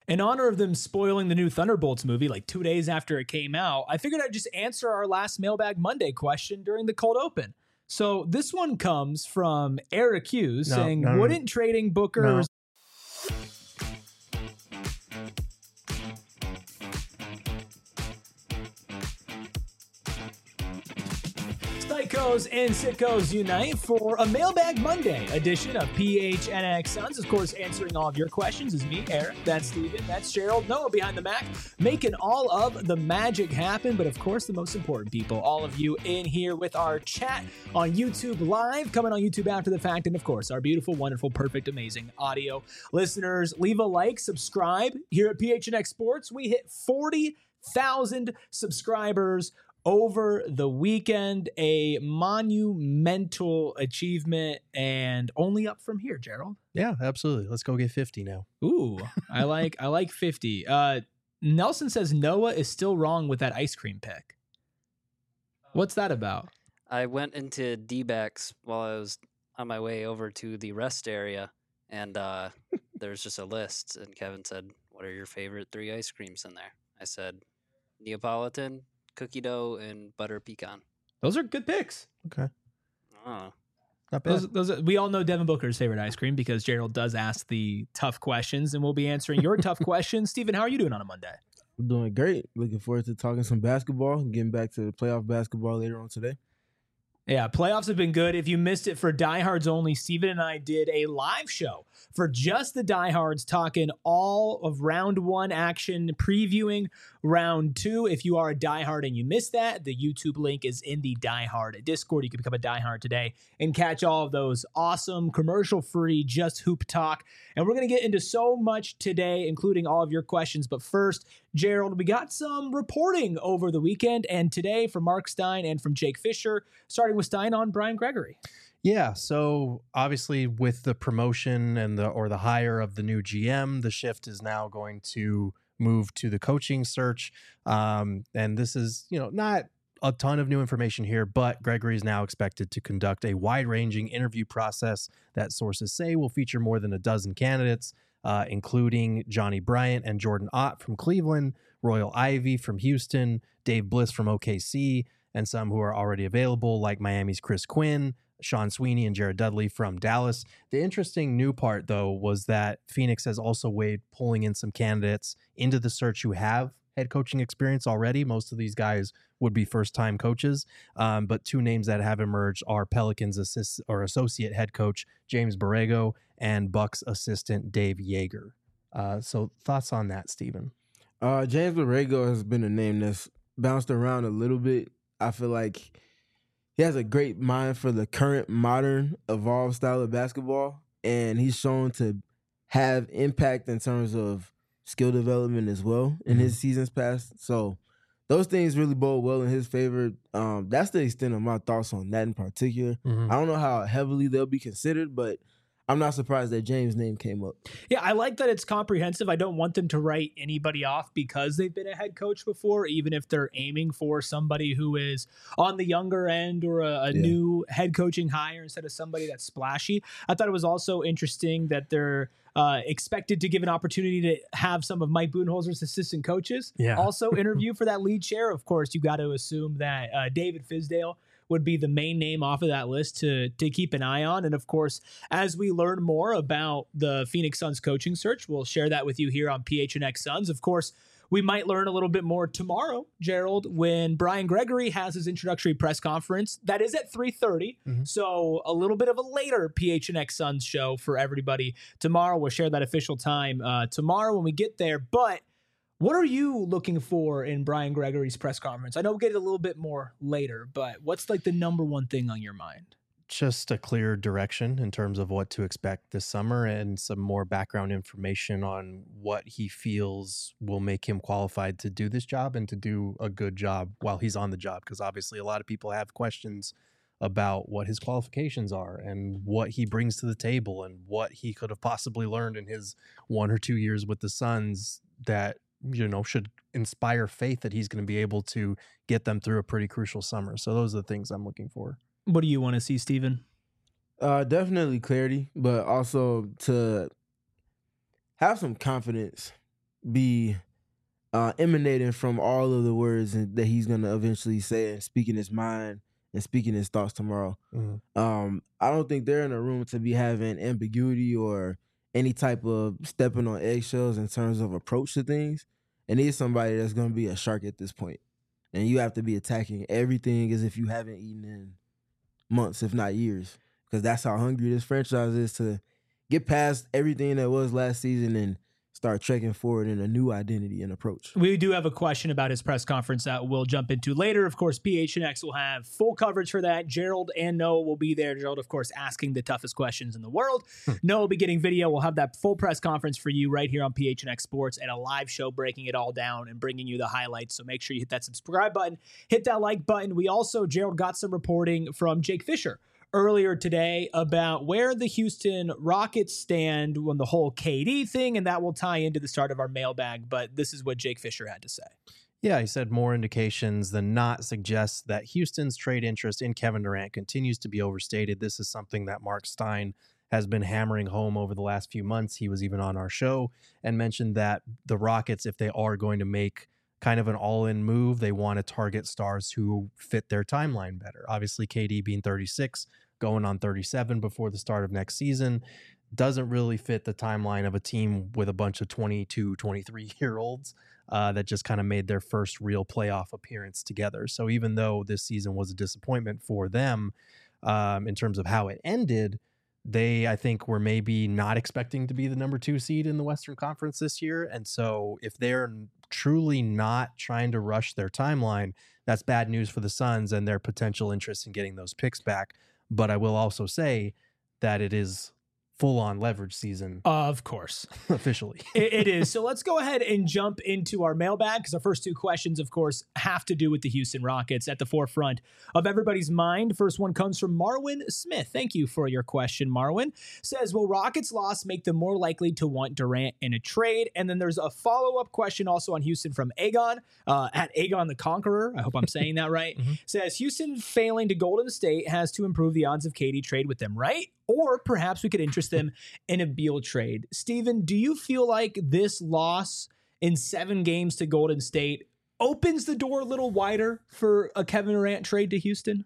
In honor of them spoiling the new Thunderbolts movie like 2 days after it came out, I figured I'd just answer our last Mailbag Monday question during the cold open. So this one comes from Eric Hughes saying, wouldn't trading Booker... Psychos and Sickos unite for a Mailbag Monday edition of PHNX Suns. Of course, answering all of your questions is me, Eric. That's Steven. That's Gerald. Noah behind the Mac, making all of the magic happen. But of course, the most important people, all of you in here with our chat on YouTube Live, coming on YouTube after the fact. And of course, our beautiful, wonderful, perfect, amazing audio listeners. Leave a like, subscribe. Here at PHNX Sports, we hit 40,000 subscribers over the weekend, a monumental achievement, and only up from here, Gerald. Yeah, absolutely. Let's go get 50 now. Ooh, I like 50. Nelson says Noah is still wrong with that ice cream pick. What's that about? I went into D-backs while I was on my way over to the rest area, and there's just a list, and Kevin said, what are your favorite 3 ice creams in there? I said, Neapolitan, cookie dough, and butter pecan. Those are good picks. Okay. Oh. Not bad. Those we all know Devin Booker's favorite ice cream because Gerald does ask the tough questions, and we'll be answering your tough questions. Steven, how are you doing on a Monday? I'm doing great. Looking forward to talking some basketball and getting back to the playoff basketball later on today. Yeah, playoffs have been good. If you missed it for diehards only, Steven and I did a live show for just the diehards, talking all of round 1 action, previewing round 2. If you are a diehard and you missed that, the YouTube link is in the diehard Discord. You can become a diehard today and catch all of those awesome commercial-free Just Hoop talk. And we're going to get into so much today, including all of your questions. But first, Gerald, we got some reporting over the weekend and today from Mark Stein and from Jake Fisher, starting with Stein on Brian Gregory. Yeah, so obviously with the promotion and the hire of the new GM, the shift is now going to move to the coaching search. And this is, not a ton of new information here, but Gregory is now expected to conduct a wide-ranging interview process that sources say will feature more than a dozen candidates, including Johnny Bryant and Jordan Ott from Cleveland, Royal Ivey from Houston, Dave Bliss from OKC, and some who are already available, like Miami's Chris Quinn, Sean Sweeney, and Jared Dudley from Dallas. The interesting new part, though, was that Phoenix has also weighed pulling in some candidates into the search who have head coaching experience already. Most of these guys would be first-time coaches, but 2 names that have emerged are Pelicans associate head coach James Borrego and Bucks assistant Dave Yeager. So thoughts on that, Steven? James Borrego has been a name that's bounced around a little bit. I feel like he has a great mind for the current modern evolved style of basketball, and he's shown to have impact in terms of skill development as well in his seasons past. So those things really bode well in his favor. That's the extent of my thoughts on that in particular. I don't know how heavily they'll be considered, but I'm not surprised that James' name came up. Yeah, I like that it's comprehensive. I don't want them to write anybody off because they've been a head coach before, even if they're aiming for somebody who is on the younger end or a new head coaching hire instead of somebody that's splashy. I thought it was also interesting that they're expected to give an opportunity to have some of Mike Budenholzer's assistant coaches also interview for that lead chair. Of course, you got to assume that David Fizdale would be the main name off of that list to keep an eye on. And of course, as we learn more about the Phoenix Suns coaching search, we'll share that with you here on PHNX Suns. Of course, we might learn a little bit more tomorrow, Gerald, when Brian Gregory has his introductory press conference. That is at 3:30. So a little bit of a later PHNX Suns show for everybody. Tomorrow, we'll share that official time tomorrow when we get there. But what are you looking for in Brian Gregory's press conference? I know we'll get it a little bit more later, but what's like the number one thing on your mind? Just a clear direction in terms of what to expect this summer and some more background information on what he feels will make him qualified to do this job and to do a good job while he's on the job. Because obviously a lot of people have questions about what his qualifications are and what he brings to the table and what he could have possibly learned in his 1 or 2 years with the Suns that should inspire faith that he's going to be able to get them through a pretty crucial summer. So those are the things I'm looking for. What do you want to see, Steven? Definitely clarity, but also to have some confidence be emanating from all of the words that he's going to eventually say and speaking his mind and speaking his thoughts tomorrow. I don't think they're in a room to be having ambiguity or any type of stepping on eggshells in terms of approach to things. And he's somebody that's going to be a shark at this point. And you have to be attacking everything as if you haven't eaten in months, if not years, because that's how hungry this franchise is to get past everything that was last season and start trekking forward in a new identity and approach. We do have a question about his press conference that we'll jump into later. Of course, PHNX will have full coverage for that. Gerald and Noah will be there. Gerald, of course, asking the toughest questions in the world. Noah will be getting video. We'll have that full press conference for you right here on PHNX Sports and a live show breaking it all down and bringing you the highlights. So make sure you hit that subscribe button, hit that like button. We also, Gerald, got some reporting from Jake Fisher earlier today about where the Houston Rockets stand on the whole KD thing, and that will tie into the start of our mailbag. But this is what Jake Fisher had to say. Yeah, he said more indications than not suggest that Houston's trade interest in Kevin Durant continues to be overstated. This is something that Mark Stein has been hammering home over the last few months. He was even on our show and mentioned that the Rockets, if they are going to make kind of an all-in move, they want to target stars who fit their timeline better. Obviously, KD being 36, going on 37 before the start of next season, doesn't really fit the timeline of a team with a bunch of 22, 23-year-olds that just kind of made their first real playoff appearance together. So even though this season was a disappointment for them in terms of how it ended, they, I think, were maybe not expecting to be the number 2 seed in the Western Conference this year. And so if they're truly not trying to rush their timeline, that's bad news for the Suns and their potential interest in getting those picks back. But I will also say that it is full-on leverage season. Of course. Officially. It is. So let's go ahead and jump into our mailbag, because our first 2 questions, of course, have to do with the Houston Rockets at the forefront of everybody's mind. First one comes from Marwin Smith. Thank you for your question, Marwin. Says, will Rockets' loss make them more likely to want Durant in a trade? And then there's a follow-up question also on Houston from Aegon, at Aegon the Conqueror. I hope I'm saying that right. Says, Houston failing to Golden State has to improve the odds of KD trade with them, right? Or perhaps we could interest them in a Beal trade. Steven, do you feel like this loss in 7 games to Golden State opens the door a little wider for a Kevin Durant trade to Houston?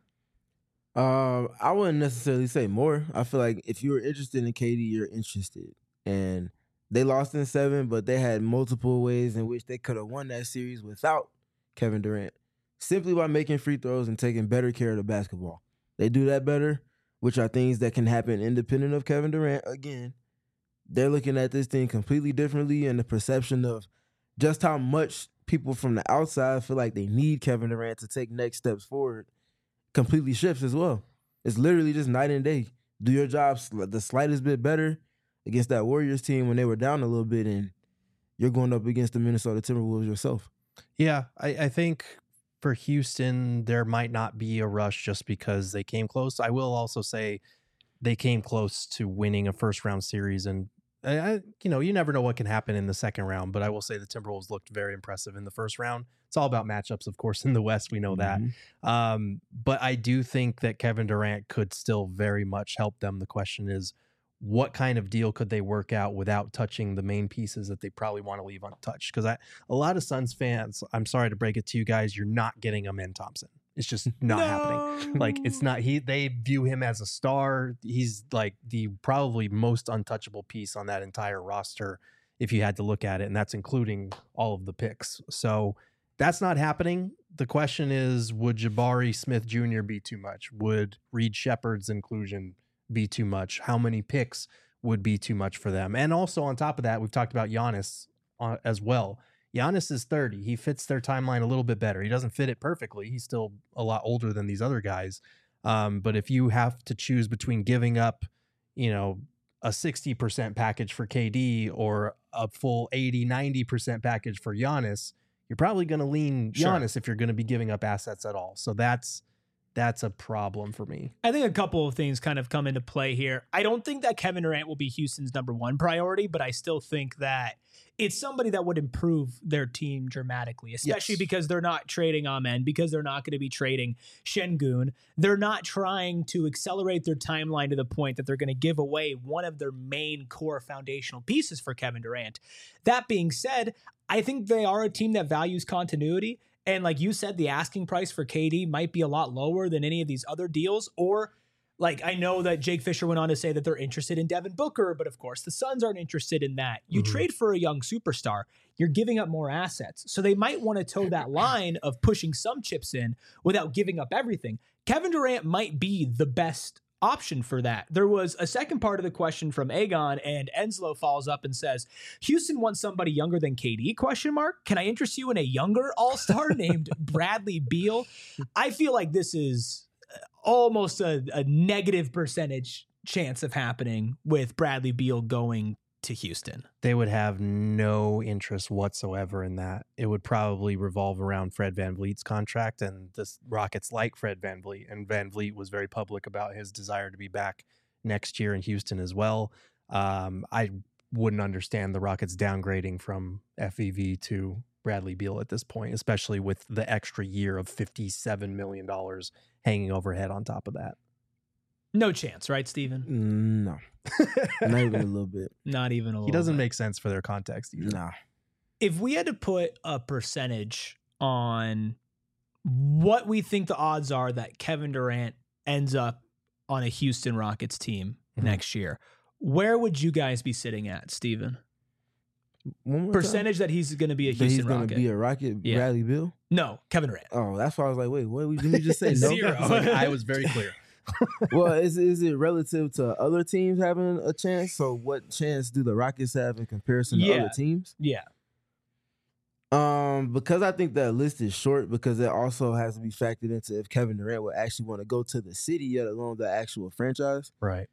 I wouldn't necessarily say more. I feel like if you were interested in KD, you're interested. And they lost in 7, but they had multiple ways in which they could have won that series without Kevin Durant, simply by making free throws and taking better care of the basketball. They do that better, which are things that can happen independent of Kevin Durant. Again, they're looking at this thing completely differently, and the perception of just how much people from the outside feel like they need Kevin Durant to take next steps forward completely shifts as well. It's literally just night and day. Do your job the slightest bit better against that Warriors team when they were down a little bit, and you're going up against the Minnesota Timberwolves yourself. Yeah, I think for Houston, there might not be a rush just because they came close. I will also say they came close to winning a first-round series, and you never know what can happen in the second round, but I will say the Timberwolves looked very impressive in the first round. It's all about matchups, of course, in the West. We know that. But I do think that Kevin Durant could still very much help them. The question is, what kind of deal could they work out without touching the main pieces that they probably want to leave untouched? Because a lot of Suns fans, I'm sorry to break it to you guys, you're not getting Amen Thompson. It's just not happening. Like, it's not, they view him as a star. He's like the probably most untouchable piece on that entire roster, if you had to look at it. And that's including all of the picks. So that's not happening. The question is, would Jabari Smith Jr. be too much? Would Reed Shepherd's inclusion be too much? How many picks would be too much for them? And also on top of that, we've talked about Giannis as well. Giannis is 30. He fits their timeline a little bit better. He doesn't fit it perfectly. He's still a lot older than these other guys. But if you have to choose between giving up, a 60% package for KD or a full 80, 90% package for Giannis, you're probably going to lean Giannis if you're going to be giving up assets at all. So that's that's a problem for me. I think a couple of things kind of come into play here. I don't think that Kevin Durant will be Houston's #1 priority, but I still think that it's somebody that would improve their team dramatically, especially because they're not trading Amen, because they're not going to be trading Şengün. They're not trying to accelerate their timeline to the point that they're going to give away one of their main core foundational pieces for Kevin Durant. That being said, I think they are a team that values continuity. And like you said, the asking price for KD might be a lot lower than any of these other deals. Or like, I know that Jake Fisher went on to say that they're interested in Devin Booker, but of course the Suns aren't interested in that. You trade for a young superstar, you're giving up more assets. So they might want to toe that line of pushing some chips in without giving up everything. Kevin Durant might be the best option for that. There was a second part of the question from Aegon, and Enslow follows up and says, Houston wants somebody younger than KD, ? Can I interest you in a younger all-star named Bradley Beal? I feel like this is almost a negative percentage chance of happening with Bradley Beal going to Houston. They would have no interest whatsoever in that. It would probably revolve around Fred VanVleet's contract, and the Rockets like Fred VanVleet, and VanVleet was very public about his desire to be back next year in Houston as well. I wouldn't understand the Rockets downgrading from FVV to Bradley Beal at this point, especially with the extra year of $57 million hanging overhead on top of that. No chance, right, Steven? No. Not even a little bit. Not even a little He doesn't bit. make sense for their context either. Nah. If we had to put a percentage on what we think the odds are that Kevin Durant ends up on a Houston Rockets team next year, where would you guys be sitting at, Steven? Percentage that he's going to be a Houston he's Rocket. going to be a Rocket, Bradley Beal? No, Kevin Durant. Oh, that's why I was like, wait, what did you just say? No? Zero. It's like, I was very clear. Well, is it relative to other teams having a chance? So what chance do the Rockets have in comparison to other teams? Yeah. Because I think that list is short, because it also has to be factored into if Kevin Durant would actually want to go to the city, let alone the actual franchise. Right.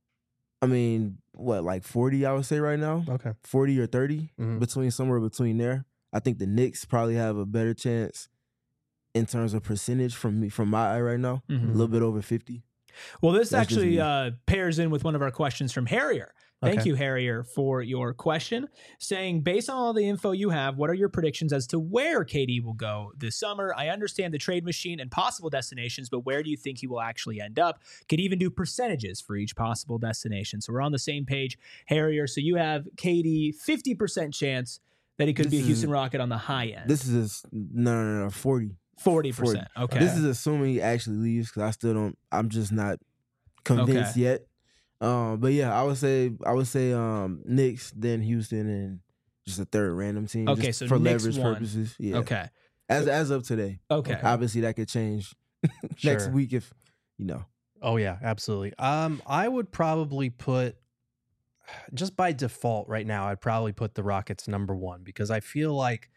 I mean, what, like 40, I would say right now? Okay. 40 or 30, somewhere between there. I think the Knicks probably have a better chance in terms of percentage from my eye right now. A little bit over 50. Well, this That's actually pairs in with one of our questions from Harrier. Thank you, Harrier, for your question, saying, based on all the info you have, what are your predictions as to where KD will go this summer? I understand the trade machine and possible destinations, but where do you think he will actually end up? Could even do percentages for each possible destination. So we're on the same page, Harrier. So you have KD 50% chance that he could be a Houston Rocket on the high end. This is no 40. 40%. Okay. This is assuming he actually leaves, because I'm just not convinced yet. But yeah, I would say Knicks, then Houston, and just a third random team. Okay, just so for Knicks leverage purposes. Yeah. Okay. As of today. Okay. Obviously that could change next week if Oh yeah, absolutely. I would probably put, just by default right now, I'd probably put the Rockets #1, because I feel like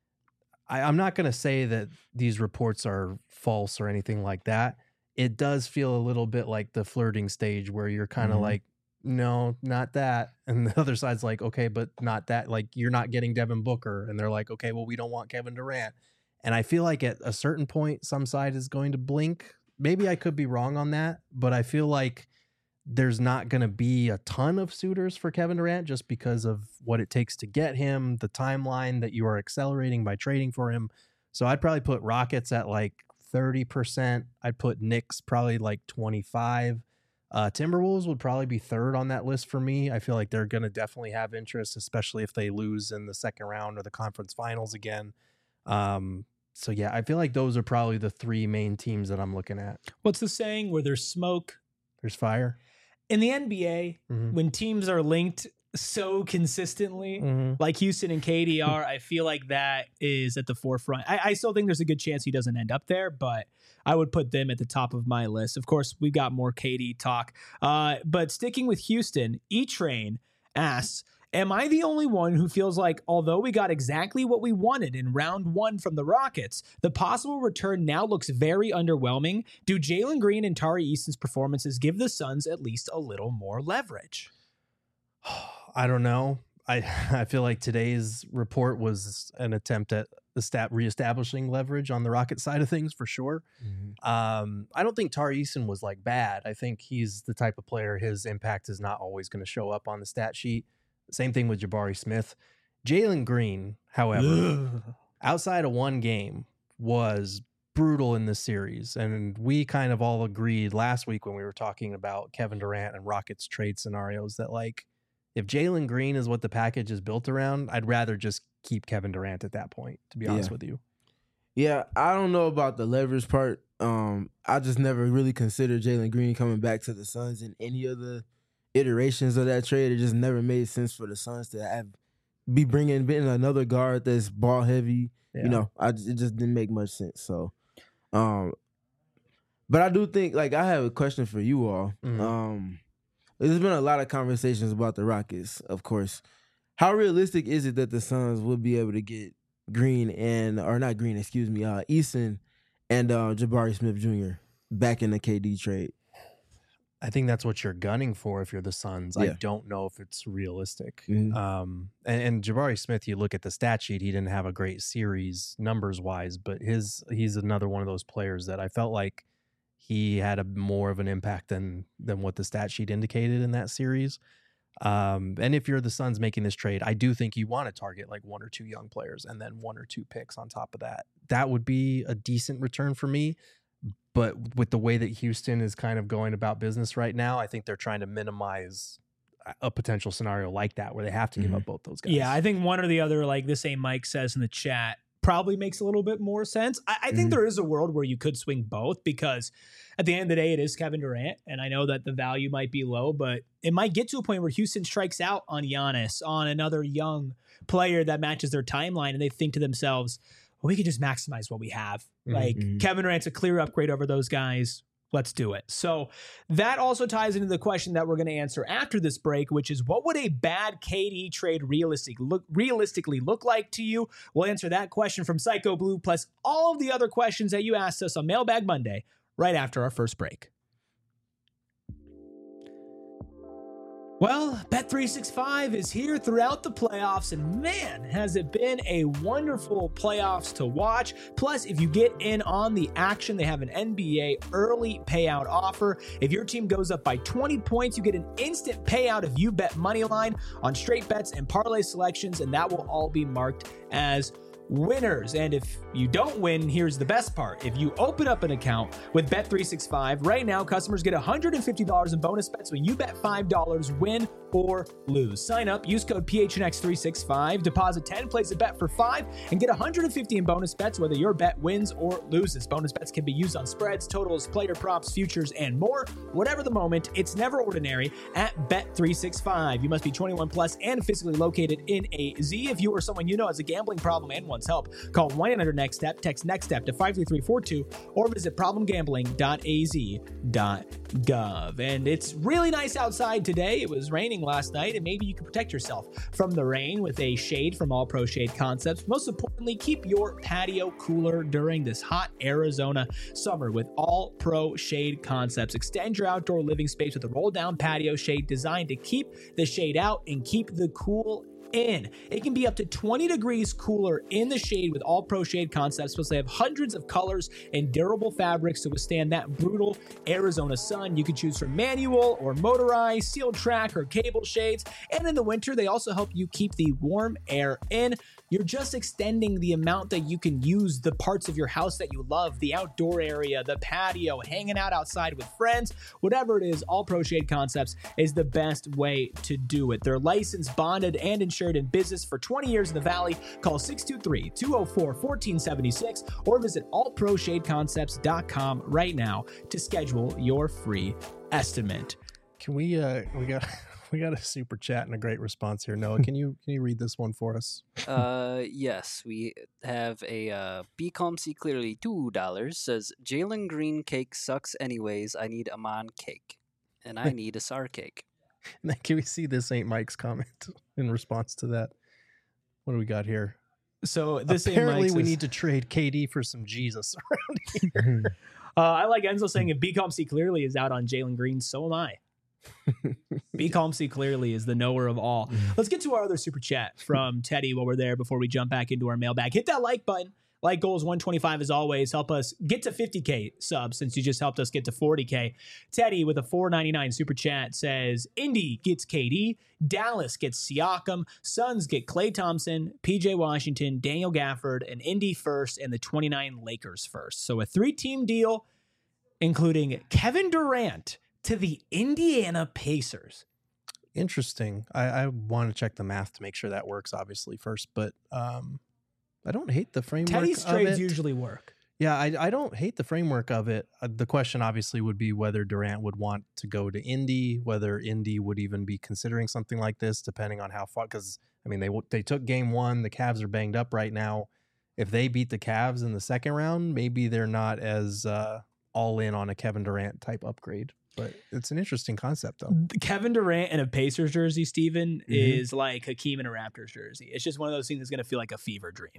I'm not going to say that these reports are false or anything like that. It does feel a little bit like the flirting stage where you're kind of like, no, not that. And the other side's like, okay, but not that. Like, you're not getting Devin Booker. And they're like, okay, well, we don't want Kevin Durant. And I feel like at a certain point, some side is going to blink. Maybe I could be wrong on that, but I feel like there's not going to be a ton of suitors for Kevin Durant just because of what it takes to get him, the timeline that you are accelerating by trading for him. So I'd probably put Rockets at like 30%. I'd put Knicks probably like 25%. Timberwolves would probably be third on that list for me. I feel like they're going to definitely have interest, especially if they lose in the second round or the conference finals again. So yeah, I feel like those are probably the three main teams that I'm looking at. What's the saying? Where there's smoke, there's fire. In the NBA, when teams are linked so consistently, like Houston and KD are, I feel like that is at the forefront. I still think there's a good chance he doesn't end up there, but I would put them at the top of my list. Of course, we got more KD talk. But sticking with Houston, E-Train asks, am I the only one who feels like, although we got exactly what we wanted in round 1 from the Rockets, the possible return now looks very underwhelming? Do Jalen Green and Tari Easton's performances give the Suns at least a little more leverage? I don't know. I feel like today's report was an attempt at reestablishing leverage on the Rocket side of things for sure. I don't think Tari Eason was like bad. I think he's the type of player, his impact is not always going to show up on the stat sheet. Same thing with Jabari Smith. Jalen Green, however, outside of one game, was brutal in this series. And we kind of all agreed last week when we were talking about Kevin Durant and Rockets trade scenarios that, like, if Jalen Green is what the package is built around, I'd rather just keep Kevin Durant at that point, to be honest with you. Yeah, I don't know about the leverage part. I just never really considered Jalen Green coming back to the Suns in any of the iterations of that trade. It just never made sense for the Suns to be bringing in another guard that's ball heavy. Yeah. You know, it just didn't make much sense. So, but I do think, like, I have a question for you all. There's been a lot of conversations about the Rockets, of course. How realistic is it that the Suns will be able to get Eason and Jabari Smith Jr. back in the KD trade? I think that's what you're gunning for if you're the Suns. Yeah. I don't know if it's realistic. And Jabari Smith, you look at the stat sheet, he didn't have a great series numbers-wise, but he's another one of those players that I felt like he had more of an impact than what the stat sheet indicated in that series. And if you're the Suns making this trade, I do think you want to target like one or two young players and then one or two picks on top of that. That would be a decent return for me. But with the way that Houston is kind of going about business right now, I think they're trying to minimize a potential scenario like that where they have to give up both those guys. Yeah, I think one or the other, like the same Mike says in the chat, probably makes a little bit more sense. I think there is a world where you could swing both, because at the end of the day, it is Kevin Durant, and I know that the value might be low, but it might get to a point where Houston strikes out on Giannis, on another young player that matches their timeline, and they think to themselves, well, we could just maximize what we have. Like, Kevin Durant's a clear upgrade over those guys. Let's do it. So that also ties into the question that we're going to answer after this break, which is, what would a bad KD trade realistically look like to you? We'll answer that question from Psycho Blue, plus all of the other questions that you asked us on Mailbag Monday, right after our first break. Well, Bet365 is here throughout the playoffs, and man, has it been a wonderful playoffs to watch. Plus, if you get in on the action, they have an NBA early payout offer. If your team goes up by 20 points, you get an instant payout if you bet moneyline on straight bets and parlay selections, and that will all be marked as winners. And if you don't win, here's the best part. If you open up an account with Bet365, right now, customers get $150 in bonus bets when you bet $5, win or lose. Sign up, use code PHNX365, deposit 10, place a bet for $5, and get $150 in bonus bets whether your bet wins or loses. Bonus bets can be used on spreads, totals, player props, futures, and more. Whatever the moment, it's never ordinary at Bet365. You must be 21 plus and physically located in AZ. If you or someone you know has a gambling problem and wants help, call 1-800-NEXT-STEP, text NEXT-STEP to 53342, or visit problemgambling.az.gov. And it's really nice outside today. It was raining last night, and maybe you can protect yourself from the rain with a shade from All Pro Shade Concepts. Most importantly, keep your patio cooler during this hot Arizona summer with All Pro Shade Concepts. Extend your outdoor living space with a roll-down patio shade designed to keep the shade out and keep the cool in. It can be up to 20 degrees cooler in the shade with All Pro Shade Concepts, plus they have hundreds of colors and durable fabrics to withstand that brutal Arizona sun. You can choose from manual or motorized, sealed track, or cable shades. And in the winter, they also help you keep the warm air in. You're just extending the amount that you can use the parts of your house that you love, the outdoor area, the patio, hanging out outside with friends, whatever it is. All Pro Shade Concepts is the best way to do it. They're licensed, bonded, and insured in business for 20 years in the Valley. Call 623-204-1476 or visit allproshadeconcepts.com right now to schedule your free estimate. Can we got a super chat and a great response here. Noah, can you read this one for us? Yes, we have a Be Calm See Clearly $2 says, Jalen Green cake sucks anyways. I need Amon cake, and I need a SAR cake. And then can we see this Ain't Mike's comment in response to that? What do we got here? So this apparently we need to trade KD for some Jesus around here. I like Enzo saying, if Be Calm See Clearly is out on Jalen Green, so am I. B. Calm C clearly is the knower of all. Let's get to our other super chat from Teddy while we're there before we jump back into our mailbag. Hit that like button. Like goals 125 as always. Help us get to 50K subs since you just helped us get to 40K. Teddy with a $4.99 super chat says, Indy gets KD, Dallas gets Siakam, Suns get Klay Thompson, PJ Washington, Daniel Gafford, and Indy first, and the 29 Lakers first. So a 3-team deal, including Kevin Durant to the Indiana Pacers. Interesting. I want to check the math to make sure that works, obviously, first, but I don't hate the framework Teddy's of trades it. usually work. Yeah, I don't hate the framework of it. The question obviously would be whether Durant would want to go to Indy, whether Indy would even be considering something like this, depending on how far. Because I mean, they took game one. The Cavs are banged up right now. If they beat the Cavs in the second round, maybe they're not as all in on a Kevin Durant type upgrade. But it's an interesting concept, though. Kevin Durant in a Pacers jersey, Steven, is like Hakeem in a Raptors jersey. It's just one of those things that's going to feel like a fever dream.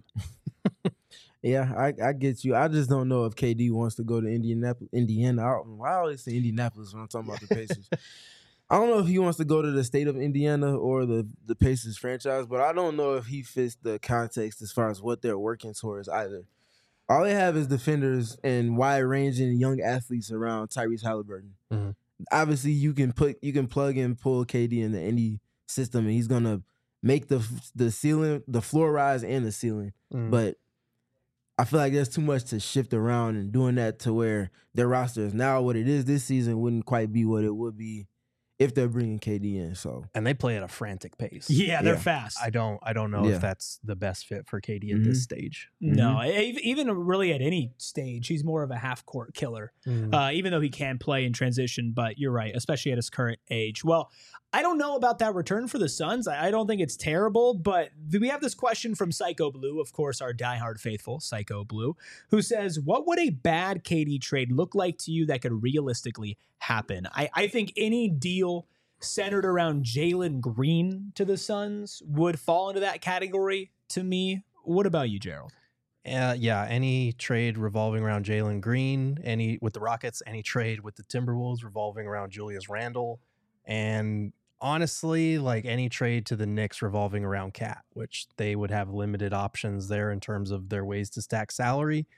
Yeah, I get you. I just don't know if KD wants to go to Indiana. I always say Indianapolis when I'm talking about the Pacers. I don't know if he wants to go to the state of Indiana or the Pacers franchise, but I don't know if he fits the context as far as what they're working towards either. All they have is defenders and wide-ranging young athletes around Tyrese Halliburton. Mm-hmm. Obviously, you can plug and pull KD in the Indy system, and he's gonna make the ceiling, the floor rise, and the ceiling. Mm-hmm. But I feel like there's too much to shift around, and doing that to where their roster is now what it is this season wouldn't quite be what it would be if they're bringing KD in. So, and they play at a frantic pace. Yeah, they're fast. I don't know if that's the best fit for KD at this stage. No, even really at any stage, he's more of a half-court killer, even though he can play in transition. But you're right, especially at his current age. Well, I don't know about that return for the Suns. I don't think it's terrible, but we have this question from Psycho Blue, of course, our diehard faithful, Psycho Blue, who says, what would a bad KD trade look like to you that could realistically happen? I think any deal centered around Jalen Green to the Suns would fall into that category to me. What about you, Gerald? Yeah, any trade revolving around Jalen Green, any with the Rockets, any trade with the Timberwolves revolving around Julius Randle, and honestly, like any trade to the Knicks revolving around Cat, which they would have limited options there in terms of their ways to stack salary.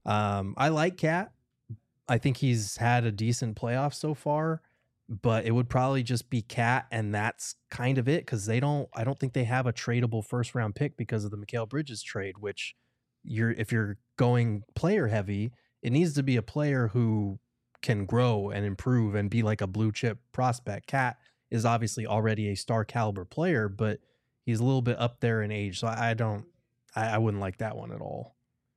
I like Cat. I think he's had a decent playoff so far, but it would probably just be Cat, and that's kind of it because I don't think they have a tradable first round pick because of the Mikal Bridges trade, which if you're going player heavy, it needs to be a player who can grow and improve and be like a blue chip prospect. Cat is obviously already a star caliber player, but he's a little bit up there in age. So I wouldn't like that one at all.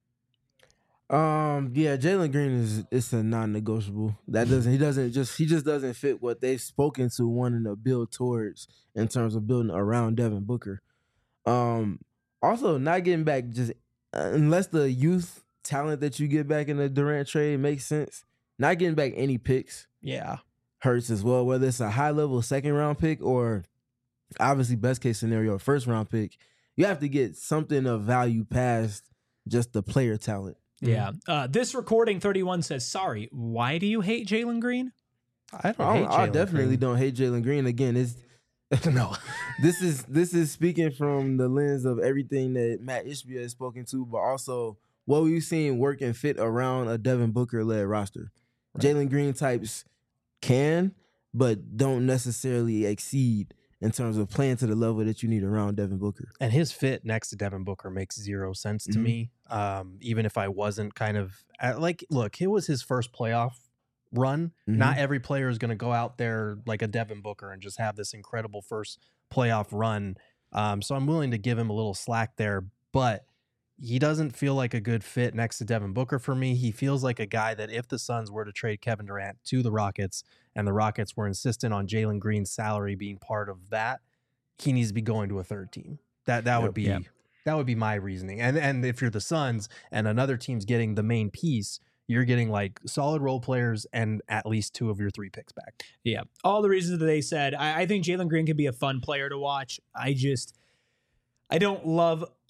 Yeah, Jalen Green is a non-negotiable. He just doesn't fit what they've spoken to wanting to build towards in terms of building around Devin Booker. Also, not getting back unless the youth talent that you get back in the Durant trade makes sense. Not getting back any picks, hurts as well. Whether it's a high-level second-round pick or obviously best-case scenario, first-round pick, you have to get something of value past just the player talent. Yeah. This recording 31 says, sorry, why do you hate Jalen Green? I definitely don't hate Jalen Green. Again, no. This is speaking from the lens of everything that Matt Ishbia has spoken to, but also what we've seen work and fit around a Devin Booker-led roster. Right. Jalen Green types can, but don't necessarily exceed in terms of playing to the level that you need around Devin Booker. And his fit next to Devin Booker makes zero sense to me. Even if I wasn't kind of look, it was his first playoff run. Not every player is going to go out there like a Devin Booker and just have this incredible first playoff run. So I'm willing to give him a little slack there, but he doesn't feel like a good fit next to Devin Booker for me. He feels like a guy that if the Suns were to trade Kevin Durant to the Rockets and the Rockets were insistent on Jalen Green's salary being part of that, he needs to be going to a third team. That would be my reasoning. And if you're the Suns and another team's getting the main piece, you're getting like solid role players and at least 2 of your 3 picks back. Yeah. All the reasons that they said. I think Jalen Green could be a fun player to watch. I don't love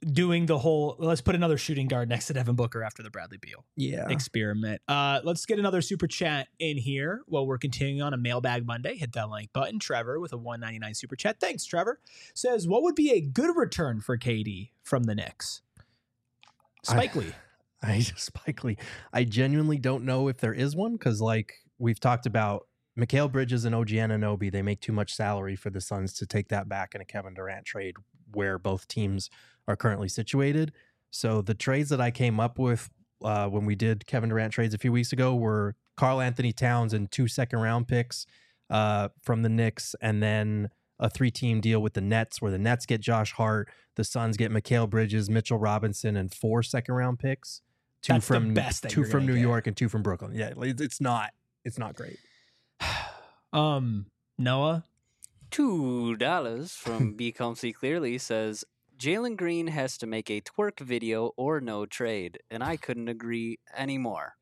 doing the whole let's put another shooting guard next to Devin Booker after the Bradley Beal experiment. Let's get another super chat in here while we're continuing on a Mailbag Monday. Hit that like button. Trevor with a $1.99 super chat. Thanks, Trevor. Says, what would be a good return for KD from the Knicks? Spike Lee. Spike Lee. I genuinely don't know if there is one because, like we've talked about, Mikal Bridges and OG Anunoby, they make too much salary for the Suns to take that back in a Kevin Durant trade where both teams are currently situated. So the trades that I came up with when we did Kevin Durant trades a few weeks ago were Karl Anthony Towns and 2 second-round picks from the Knicks, and then a 3-team deal with the Nets where the Nets get Josh Hart, the Suns get Mikal Bridges, Mitchell Robinson, and 4 second-round picks. Two That's from the best thing 2 from New get. York and 2 from Brooklyn. Yeah, it's not great. Noah? $2 from Be Comfy Clearly says, Jalen Green has to make a twerk video or no trade, and I couldn't agree anymore.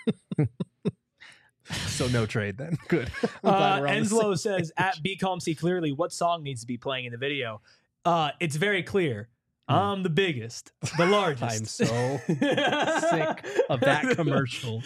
So no trade then. Good. Enslow says, at Be Comfy Clearly, what song needs to be playing in the video? It's very clear. I'm the biggest, the largest. I'm so sick of that commercial.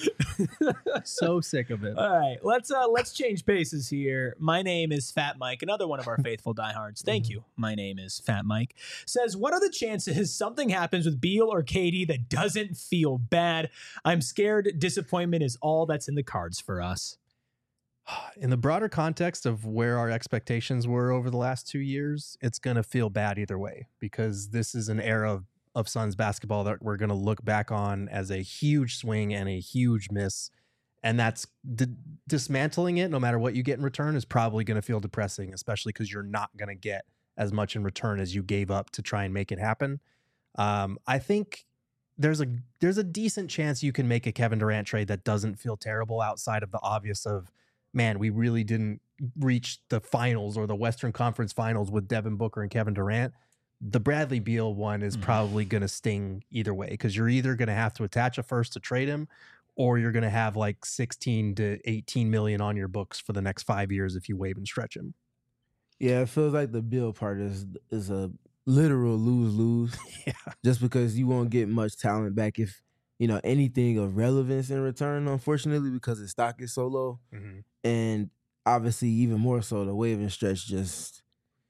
So sick of it. All right, let's change paces here. My name is Fat Mike, another one of our faithful diehards. Thank you. My name is Fat Mike. Says, what are the chances something happens with Beal or KD that doesn't feel bad? I'm scared disappointment is all that's in the cards for us. In the broader context of where our expectations were over the last 2 years, it's going to feel bad either way because this is an era of Suns basketball that we're going to look back on as a huge swing and a huge miss. And that's dismantling it, no matter what you get in return, is probably going to feel depressing, especially because you're not going to get as much in return as you gave up to try and make it happen. I think there's a decent chance you can make a Kevin Durant trade that doesn't feel terrible outside of the obvious of, man, we really didn't reach the finals or the Western Conference Finals with Devin Booker and Kevin Durant. The Bradley Beal one is probably going to sting either way because you're either going to have to attach a first to trade him or you're going to have like 16 to 18 million on your books for the next 5 years if you waive and stretch him. Yeah, it feels like the Beal part is a literal lose-lose. Yeah. Just because you won't get much talent back if, anything of relevance in return, unfortunately, because his stock is so low. Mm-hmm. And obviously, even more so, the wave and stretch it's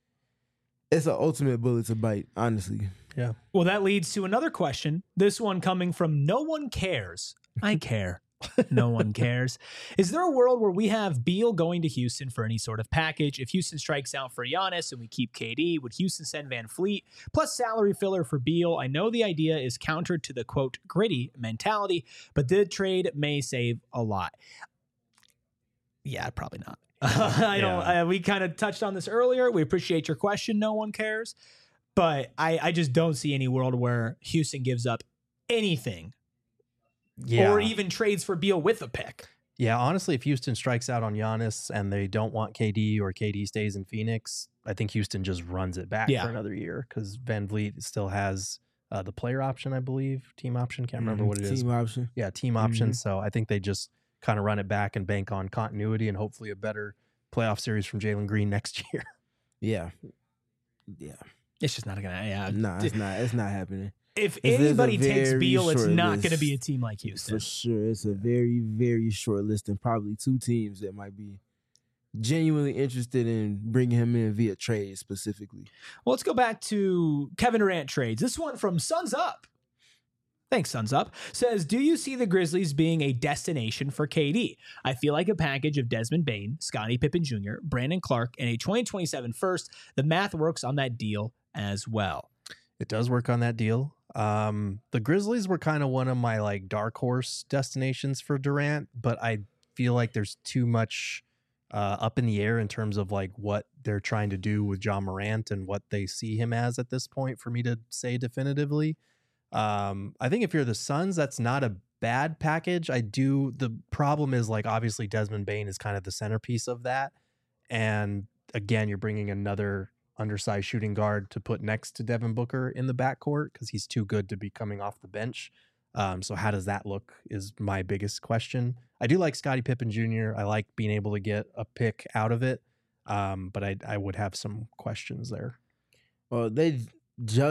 an ultimate bullet to bite, honestly. Yeah. Well, that leads to another question. This one coming from No One Cares. I care. No one cares. Is there a world where we have Beal going to Houston for any sort of package? If Houston strikes out for Giannis and we keep KD, would Houston send Van Fleet plus salary filler for Beal? I know the idea is counter to the, quote, gritty mentality, but the trade may save a lot. Yeah, probably not. I don't. We kind of touched on this earlier. We appreciate your question. No one cares. But I just don't see any world where Houston gives up anything. Yeah. Or even trades for Beal with a pick. Yeah, honestly, if Houston strikes out on Giannis and they don't want KD or KD stays in Phoenix, I think Houston just runs it back for another year because Van Vliet still has the player option, I believe. Team option. Can't remember what it is. Team option. Yeah, team option. So I think they just kind of run it back and bank on continuity and hopefully a better playoff series from Jalen Green next year. Yeah. Yeah. It's just not going to. Yeah. No, it's not happening. If anybody takes Beal, it's not list. going to be a team like Houston. For sure. It's a very, very short list and probably 2 teams that might be genuinely interested in bringing him in via trade specifically. Well, let's go back to Kevin Durant trades. This one from Suns Up. Thanks, Suns Up. Says, do you see the Grizzlies being a destination for KD? I feel like a package of Desmond Bane, Scottie Pippen Jr., Brandon Clark, and a 2027 first. The math works on that deal as well. It does work on that deal. The Grizzlies were kind of one of my like dark horse destinations for Durant, but I feel like there's too much up in the air in terms of like what they're trying to do with John Morant and what they see him as at this point for me to say definitively. I think if you're the Suns, that's not a bad package. The problem is like obviously Desmond Bane is kind of the centerpiece of that. And again, you're bringing another undersized shooting guard to put next to Devin Booker in the backcourt because he's too good to be coming off the bench. So how does that look is my biggest question. I do like Scottie Pippen Jr. I like being able to get a pick out of it. But I would have some questions there. Well, they just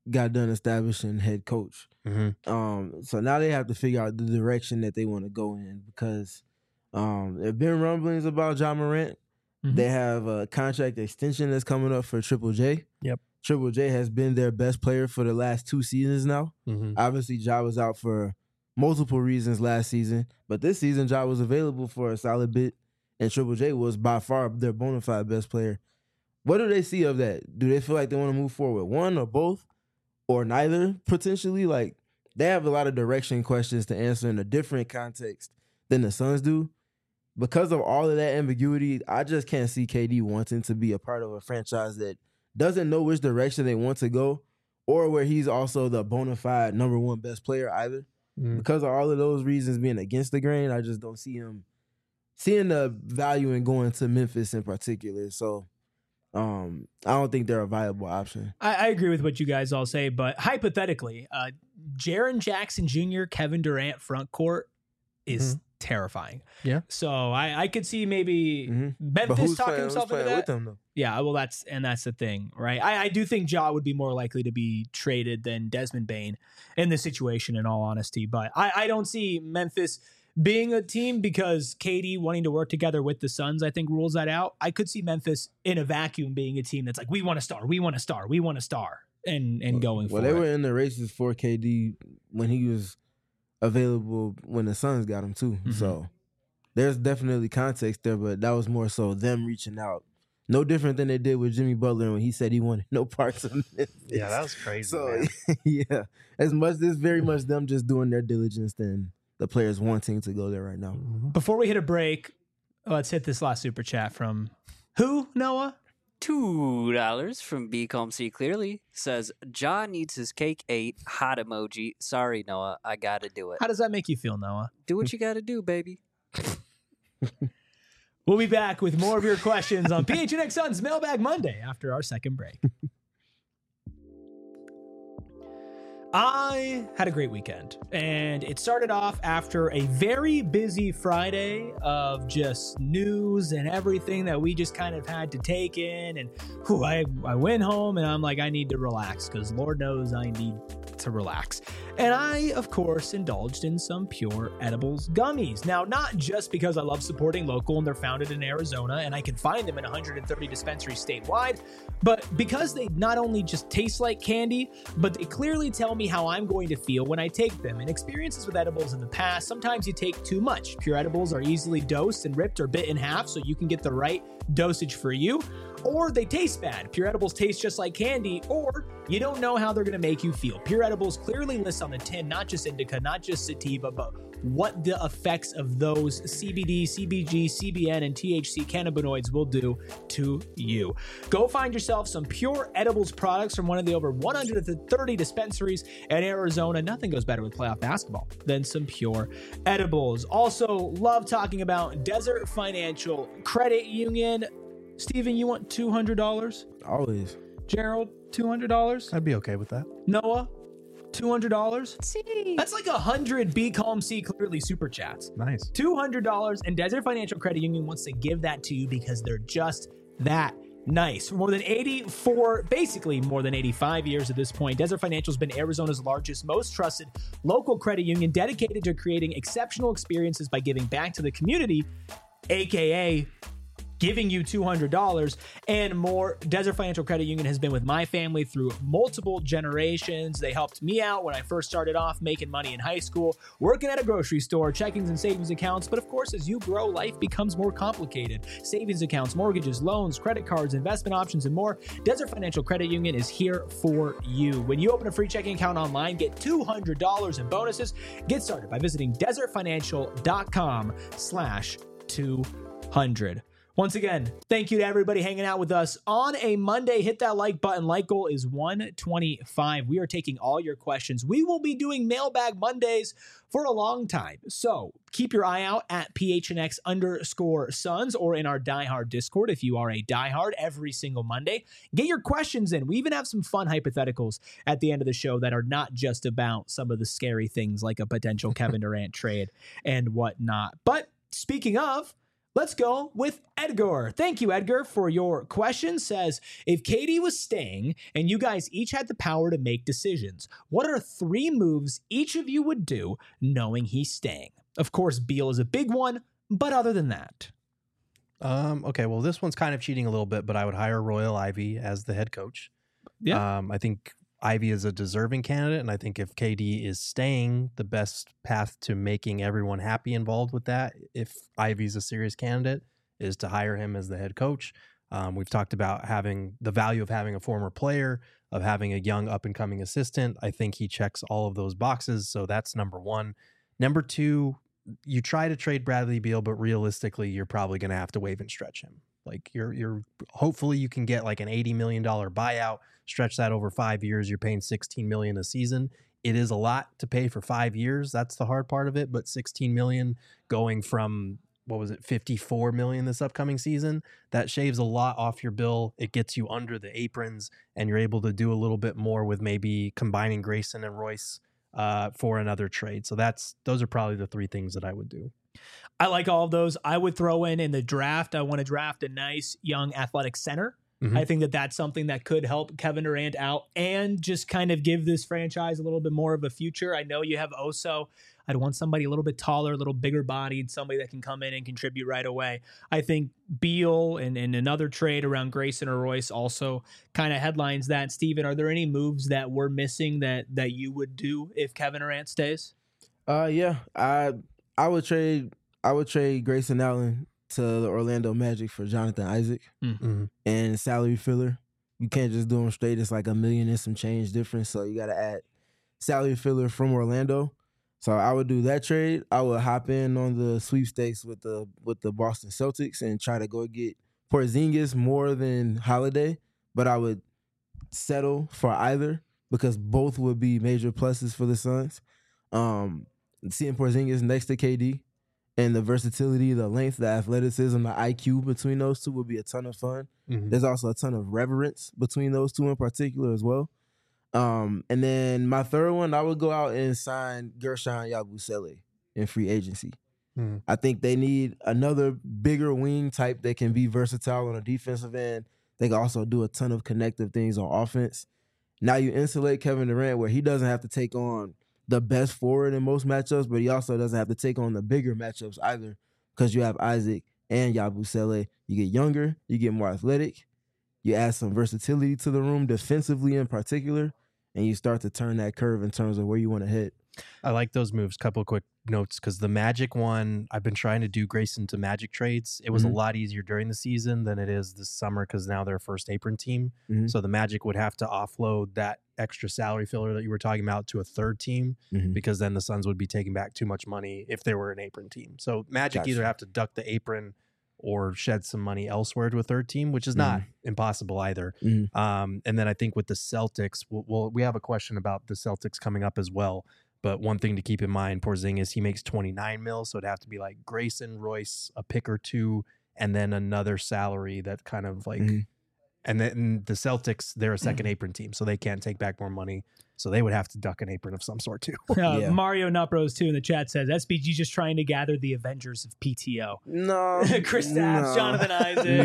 got done establishing head coach. Mm-hmm. So now they have to figure out the direction that they want to go in because there have been rumblings about Ja Morant. Mhm. They have a contract extension that's coming up for Triple J. Yep. Triple J has been their best player for the last 2 seasons now. Mm-hmm. Obviously, Ja was out for multiple reasons last season, but this season Ja was available for a solid bit, and Triple J was by far their bona fide best player. What do they see of that? Do they feel like they want to move forward with one or both or neither potentially? Like, they have a lot of direction questions to answer in a different context than the Suns do. Because of all of that ambiguity, I just can't see KD wanting to be a part of a franchise that doesn't know which direction they want to go or where he's also the bona fide number one best player either. Mm. Because of all of those reasons being against the grain, I just don't see him seeing the value in going to Memphis in particular. So I don't think they're a viable option. I agree with what you guys all say, but hypothetically, Jaren Jackson Jr., Kevin Durant front court is terrifying. Yeah. So I could see maybe But Memphis who's talking playing, himself who's into playing that. with them though? Yeah, well, that's the thing, right? I do think Ja would be more likely to be traded than Desmond Bane in this situation, in all honesty. But I don't see Memphis being a team because KD wanting to work together with the Suns, I think, rules that out. I could see Memphis in a vacuum being a team that's like, we want a star, we want a star, we want a star, and going for Well, they it. were in the races for KD when he was available when the Suns got him too. Mhm. So there's definitely context there, but that was more so them reaching out. No different than they did with Jimmy Butler when he said he wanted no parts of Memphis. Yeah, that was crazy. So Man. yeah, it's very much them just doing their diligence than the players wanting to go there right now. Mhm. Before we hit a break, let's hit this last super chat from who, Noah? $2 from B Calm C Clearly says, Ja needs his cake ate. Hot emoji. Sorry, Noah. I gotta do it. How does that make you feel, Noah? Do what you gotta do, baby. We'll be back with more of your questions on PHNX Suns Mailbag Monday after our second break. I had a great weekend, and it started off after a very busy Friday of just news and everything that we just kind of had to take in. And I went home and I'm like, I need to relax because Lord knows I need to relax. And I, of course, indulged in some Pure Edibles gummies. Now, not just because I love supporting local and they're founded in Arizona and I can find them in 130 dispensaries statewide, but because they not only just taste like candy, but they clearly tell me how I'm going to feel when I take them. In experiences with edibles in the past, sometimes you take too much. Pure Edibles are easily dosed and ripped or bit in half so you can get the right dosage for you, or they taste bad. Pure Edibles taste just like candy, or you don't know how they're going to make you feel. Pure Edibles clearly lists on the tin not just indica, not just sativa, but what the effects of those CBD, CBG, CBN, and THC cannabinoids will do to you. Go find yourself some Pure Edibles products from one of the over 130 dispensaries in Arizona. Nothing goes better with playoff basketball than some Pure Edibles. Also, love talking about Desert Financial Credit Union. Steven, you want $200? Always. Gerald, $200? I'd be okay with that. Noah, $200? That's like 100 Be Calm See Clearly super chats. Nice. $200, and Desert Financial Credit Union wants to give that to you because they're just that nice. For more than 85 years at this point, Desert Financial has been Arizona's largest, most trusted local credit union dedicated to creating exceptional experiences by giving back to the community, aka giving you $200 and more. Desert Financial Credit Union has been with my family through multiple generations. They helped me out when I first started off making money in high school, working at a grocery store, checkings and savings accounts. But of course, as you grow, life becomes more complicated. Savings accounts, mortgages, loans, credit cards, investment options, and more. Desert Financial Credit Union is here for you. When you open a free checking account online, get $200 in bonuses. Get started by visiting desertfinancial.com/200. Once again, thank you to everybody hanging out with us on a Monday. Hit that like button. Like goal is 125. We are taking all your questions. We will be doing Mailbag Mondays for a long time. So keep your eye out at PHNX_Suns or in our diehard Discord if you are a diehard every single Monday. Get your questions in. We even have some fun hypotheticals at the end of the show that are not just about some of the scary things like a potential Kevin Durant trade and whatnot. But speaking of, Let's go with Edgar. Thank you, Edgar, for your question. Says, if KD was staying and you guys each had the power to make decisions, what are 3 moves each of you would do knowing he's staying? Of course, Beal is a big one, but other than that. Okay, well, this one's kind of cheating a little bit, but I would hire Royal Ivy as the head coach. Yeah. I think Ivy is a deserving candidate, and I think if KD is staying, the best path to making everyone happy involved with that, if Ivy's a serious candidate, is to hire him as the head coach. We've talked about having the value of having a former player, of having a young up-and-coming assistant. I think he checks all of those boxes, so that's number 1. Number 2, you try to trade Bradley Beal, but realistically, you're probably going to have to waive and stretch him. Like you're hopefully you can get like an $80 million buyout, stretch that over 5 years. You're paying $16 million a season. It is a lot to pay for 5 years. That's the hard part of it. But $16 million going from, what was it, $54 million this upcoming season, that shaves a lot off your bill. It gets you under the aprons, and you're able to do a little bit more with maybe combining Grayson and Royce for another trade. So those are probably the 3 things that I would do. I like all of those. I would throw in the draft. I want to draft a nice young athletic center. Mm-hmm. I think that's something that could help Kevin Durant out and just kind of give this franchise a little bit more of a future. I know you have Oso. I'd want somebody a little bit taller, a little bigger bodied, somebody that can come in and contribute right away. I think Beal and another trade around Grayson or Royce also kind of headlines that. Steven, are there any moves that we're missing that you would do if Kevin Durant stays? Yeah, I would trade Grayson Allen to the Orlando Magic for Jonathan Isaac and salary filler. You can't just do them straight. It's like $1 million and some change difference. So you got to add salary filler from Orlando. So I would do that trade. I would hop in on the sweepstakes with the Boston Celtics and try to go get Porzingis more than Holiday. But I would settle for either because both would be major pluses for the Suns. Seeing Porzingis next to KD and the versatility, the length, the athleticism, the IQ between those two would be a ton of fun. Mm-hmm. There's also a ton of reverence between those two in particular as well. And then my third one, I would go out and sign Gershon Yabusele in free agency. Mm-hmm. I think they need another bigger wing type that can be versatile on a defensive end. They can also do a ton of connective things on offense. Now you insulate Kevin Durant where he doesn't have to take on the best forward in most matchups, but he also doesn't have to take on the bigger matchups either because you have Isaac and Yabusele. You get younger, you get more athletic, you add some versatility to the room, defensively in particular, and you start to turn that curve in terms of where you want to hit. I like those moves. Couple of quick notes, because the Magic one, I've been trying to do Grayson to Magic trades. It was a lot easier during the season than it is this summer because now they're a first apron team. Mm-hmm. So the Magic would have to offload that extra salary filler that you were talking about to a third team because then the Suns would be taking back too much money if they were an apron team. So Magic either have to duck the apron or shed some money elsewhere to a third team, which is not impossible either. And then I think with the Celtics, we have a question about the Celtics coming up as well. But one thing to keep in mind, Porzingis, he makes $29 million, so it'd have to be like Grayson, Royce, a pick or two, and then another salary that kind of like, and then the Celtics, they're a second apron team, so they can't take back more money. So they would have to duck an apron of some sort too. Mario Nutbros too in the chat says SBG just trying to gather the Avengers of PTO. No, Kristaps, Jonathan Isaac.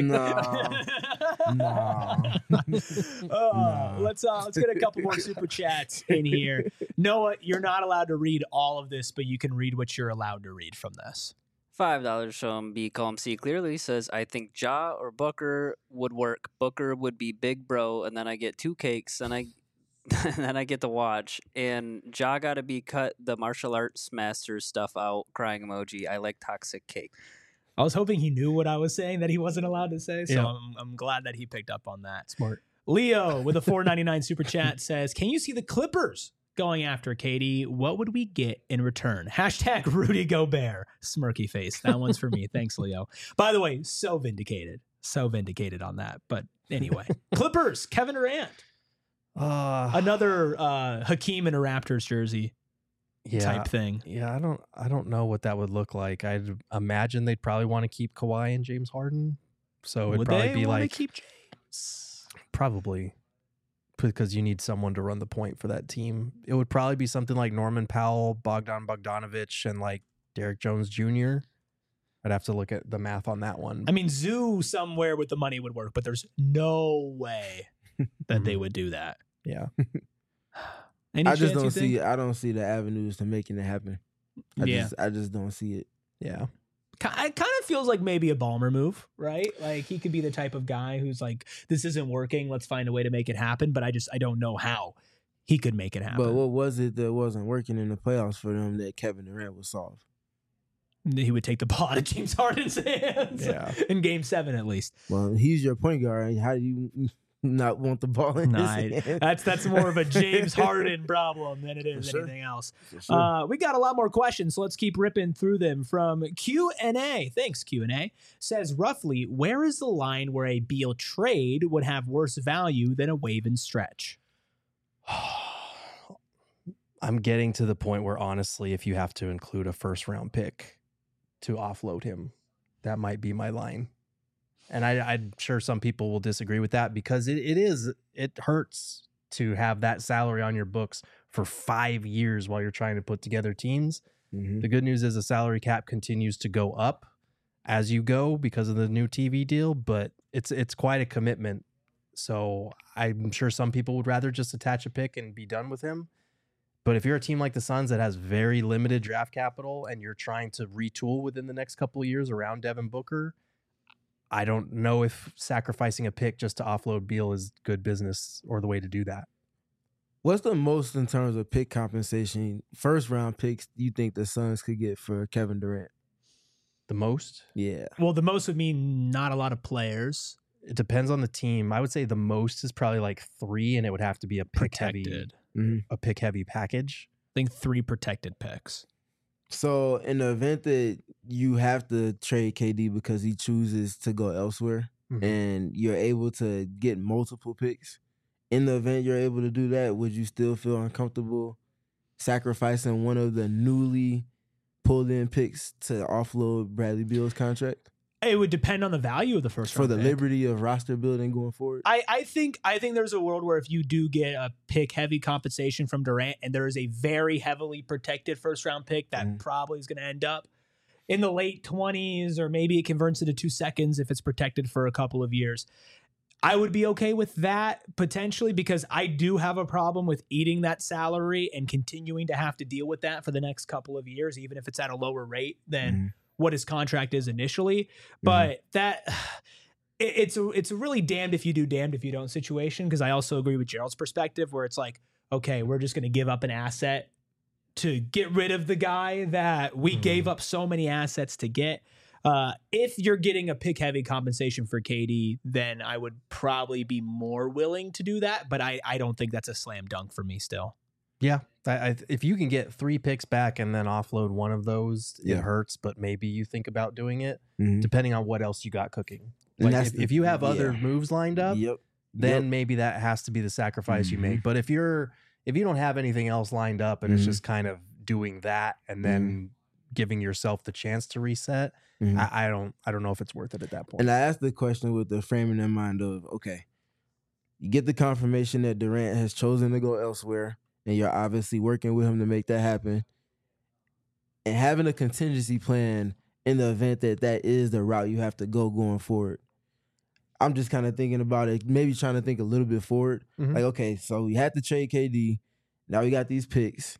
No. Let's get a couple more super chats in here. Noah, you're not allowed to read all of this, but you can read what you're allowed to read from this. $5 from B Calm C clearly says, I think Ja or Booker would work. Booker would be big bro, and then I get 2 cakes, and then I get to watch. And Ja got to be cut the martial arts master stuff out. Crying emoji. I like toxic cake. I was hoping he knew what I was saying that he wasn't allowed to say, so I'm glad that he picked up on that. Smart. Leo with a $4.99 super chat says, can you see the Clippers going after KD? What would we get in return? Hashtag Rudy Gobert. Smirky face. That one's for me. Thanks, Leo. By the way, so vindicated on that. But anyway, Clippers, Kevin Durant. Another Hakeem in a Raptors jersey type thing. Yeah, I don't know what that would look like. I'd imagine they'd probably want to keep Kawhi and James Harden. So it'd probably be like keep James? Probably. Because you need someone to run the point for that team. It would probably be something like Norman Powell, Bogdan Bogdanovic, and like Derek Jones Jr. I'd have to look at the math on that one. I mean, Zoo somewhere with the money would work, but there's no way that they would do that. Yeah. Any I just chance don't you see. think? I don't see the avenues to making it happen. I just don't see it. Yeah. It kind of feels like maybe a Ballmer move, right? Like he could be the type of guy who's like, this isn't working. Let's find a way to make it happen. But I don't know how he could make it happen. But what was it that wasn't working in the playoffs for them that Kevin Durant would solve? He would take the ball out of James Harden's hands in Game 7 at least. Well, he's your point guard. How do you not want the ball in his hand? That's more of a James Harden problem than it is anything else. We got a lot more questions, so let's keep ripping through them. From Q&A, thanks Q&A, says roughly, where is the line where a Beal trade would have worse value than a wave and stretch? I'm getting to the point where, honestly, if you have to include a first-round pick to offload him, that might be my line. And I'm sure some people will disagree with that because it hurts to have that salary on your books for 5 years while you're trying to put together teams. Mm-hmm. The good news is the salary cap continues to go up as you go because of the new TV deal, but it's quite a commitment. So I'm sure some people would rather just attach a pick and be done with him. But if you're a team like the Suns that has very limited draft capital and you're trying to retool within the next couple of years around Devin Booker, I don't know if sacrificing a pick just to offload Beal is good business or the way to do that. What's the most in terms of pick compensation, first round picks, you think the Suns could get for Kevin Durant? The most? Yeah. Well, the most would mean not a lot of players. It depends on the team. I would say the most is probably like 3, and it would have to be a pick heavy. A pick heavy package. I think 3 protected picks. So in the event that you have to trade KD because he chooses to go elsewhere and you're able to get multiple picks, in the event you're able to do that, would you still feel uncomfortable sacrificing one of the newly pulled in picks to offload Bradley Beal's contract? It would depend on the value of the first round for the pick. liberty of roster building going forward. I think there's a world where if you do get a pick heavy compensation from Durant and there is a very heavily protected first round pick that probably is going to end up in the late 20s, or maybe it converts into 2 seconds if it's protected for a couple of years. I would be okay with that potentially because I do have a problem with eating that salary and continuing to have to deal with that for the next couple of years, even if it's at a lower rate than what his contract is initially. But that it's a really damned if you do, damned if you don't situation. Because I also agree with Gerald's perspective where it's like, okay, we're just going to give up an asset to get rid of the guy that we gave up so many assets to get. If you're getting a pick heavy compensation for KD, then I would probably be more willing to do that. But I don't think that's a slam dunk for me still. Yeah. If you can get 3 picks back and then offload one of those, it hurts, but maybe you think about doing it depending on what else you got cooking. Like if you have other moves lined up, then maybe that has to be the sacrifice you make. But if you don't have anything else lined up and it's just kind of doing that and then giving yourself the chance to reset, I don't know if it's worth it at that point. And I asked the question with the framing in mind of, okay, you get the confirmation that Durant has chosen to go elsewhere, and you're obviously working with him to make that happen. And having a contingency plan in the event that that is the route you have to go going forward. I'm just kind of thinking about it, maybe trying to think a little bit forward. Like, okay, so we had to trade KD. Now we got these picks.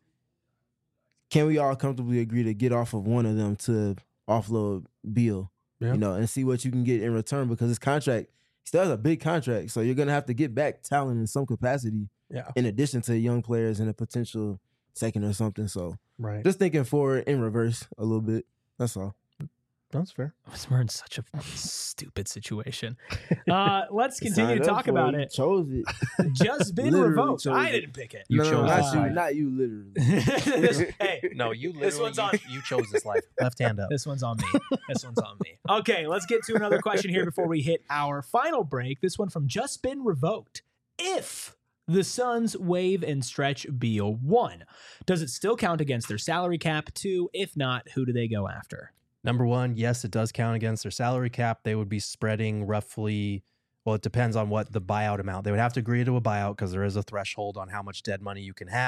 Can we all comfortably agree to get off of one of them to offload Beal? Yeah. You know, and see what you can get in return, because his contract still has a big contract. So you're going to have to get back talent in some capacity. Yeah. In addition to young players and a potential second or something. So just thinking forward in reverse a little bit. That's all. That's fair. We're in such a stupid situation. Let's continue to talk about it. Chose it. Just been revoked. I didn't pick it. You chose this life. Not you, literally. No, you literally. This one's on. You chose this life. Left hand up. This one's on me. This one's on me. Okay, let's get to another question here before we hit our final break. This one from Just Been Revoked. If the Suns waive and stretch Beal, 1, does it still count against their salary cap? 2, if not, who do they go after? Number 1, yes, it does count against their salary cap. They would be spreading roughly, well, it depends on what the buyout amount. They would have to agree to a buyout because there is a threshold on how much dead money you can have.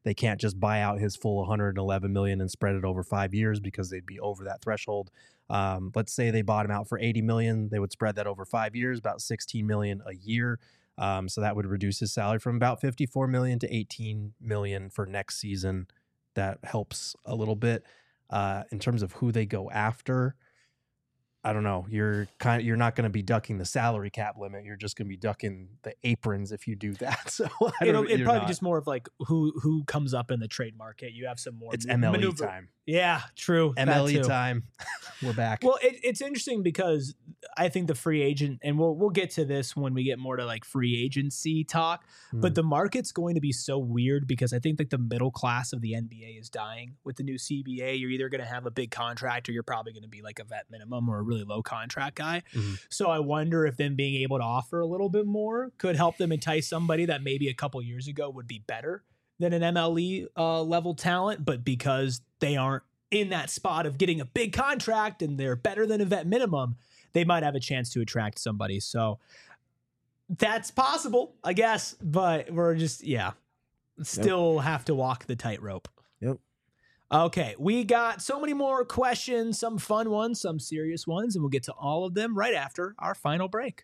They can't just buy out his full 111 million and spread it over 5 years because they'd be over that threshold. Let's say they bought him out for 80 million. They would spread that over 5 years, about 16 million a year. So that would reduce his salary from about 54 million to 18 million for next season. That helps a little bit. In terms of who they go after, I don't know. You're not going to be ducking the salary cap limit. You're just going to be ducking the aprons if you do that. So it'd probably be just more of like who comes up in the trade market. You have some more. It's MLE time. Yeah, true. MLE time. We're back. Well, it's interesting because I think the free agent, and we'll get to this when we get more to like free agency talk, but the market's going to be so weird because I think like the middle class of the NBA is dying with the new CBA. You're either going to have a big contract or you're probably going to be like a vet minimum or a really low contract guy. So I wonder if them being able to offer a little bit more could help them entice somebody that maybe a couple years ago would be better than an MLE level talent, but because they aren't in that spot of getting a big contract and they're better than a vet minimum, they might have a chance to attract somebody. So that's possible, I guess, but we're just, still have to walk the tightrope. Yep. Okay, we got so many more questions, some fun ones, some serious ones, and we'll get to all of them right after our final break.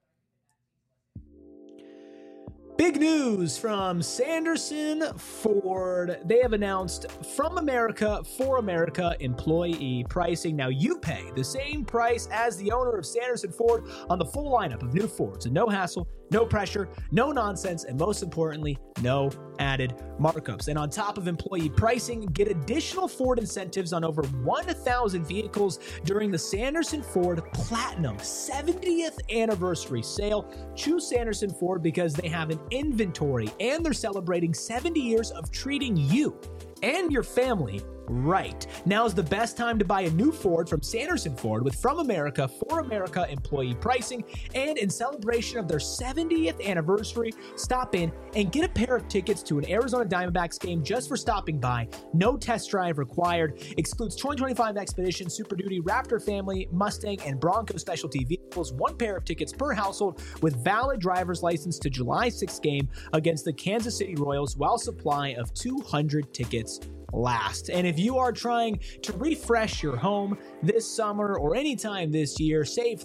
Big news from Sanderson Ford. They have announced From America for America employee pricing. Now you pay the same price as the owner of Sanderson Ford on the full lineup of new Fords. And no hassle, no pressure, no nonsense, and most importantly, no added markups. And on top of employee pricing, get additional Ford incentives on over 1,000 vehicles during the Sanderson Ford Platinum 70th anniversary sale. Choose Sanderson Ford because they have an inventory and they're celebrating 70 years of treating you and your family right. Now is the best time to buy a new Ford from Sanderson Ford with From America for America employee pricing. And in celebration of their 70th anniversary, stop in and get a pair of tickets to an Arizona Diamondbacks game just for stopping by. No test drive required. Excludes 2025 Expedition, Super Duty, Raptor Family, Mustang, and Bronco specialty vehicles. One pair of tickets per household with valid driver's license to July 6th game against the Kansas City Royals while supply of 200 tickets last. And if you are trying to refresh your home this summer or anytime this year, save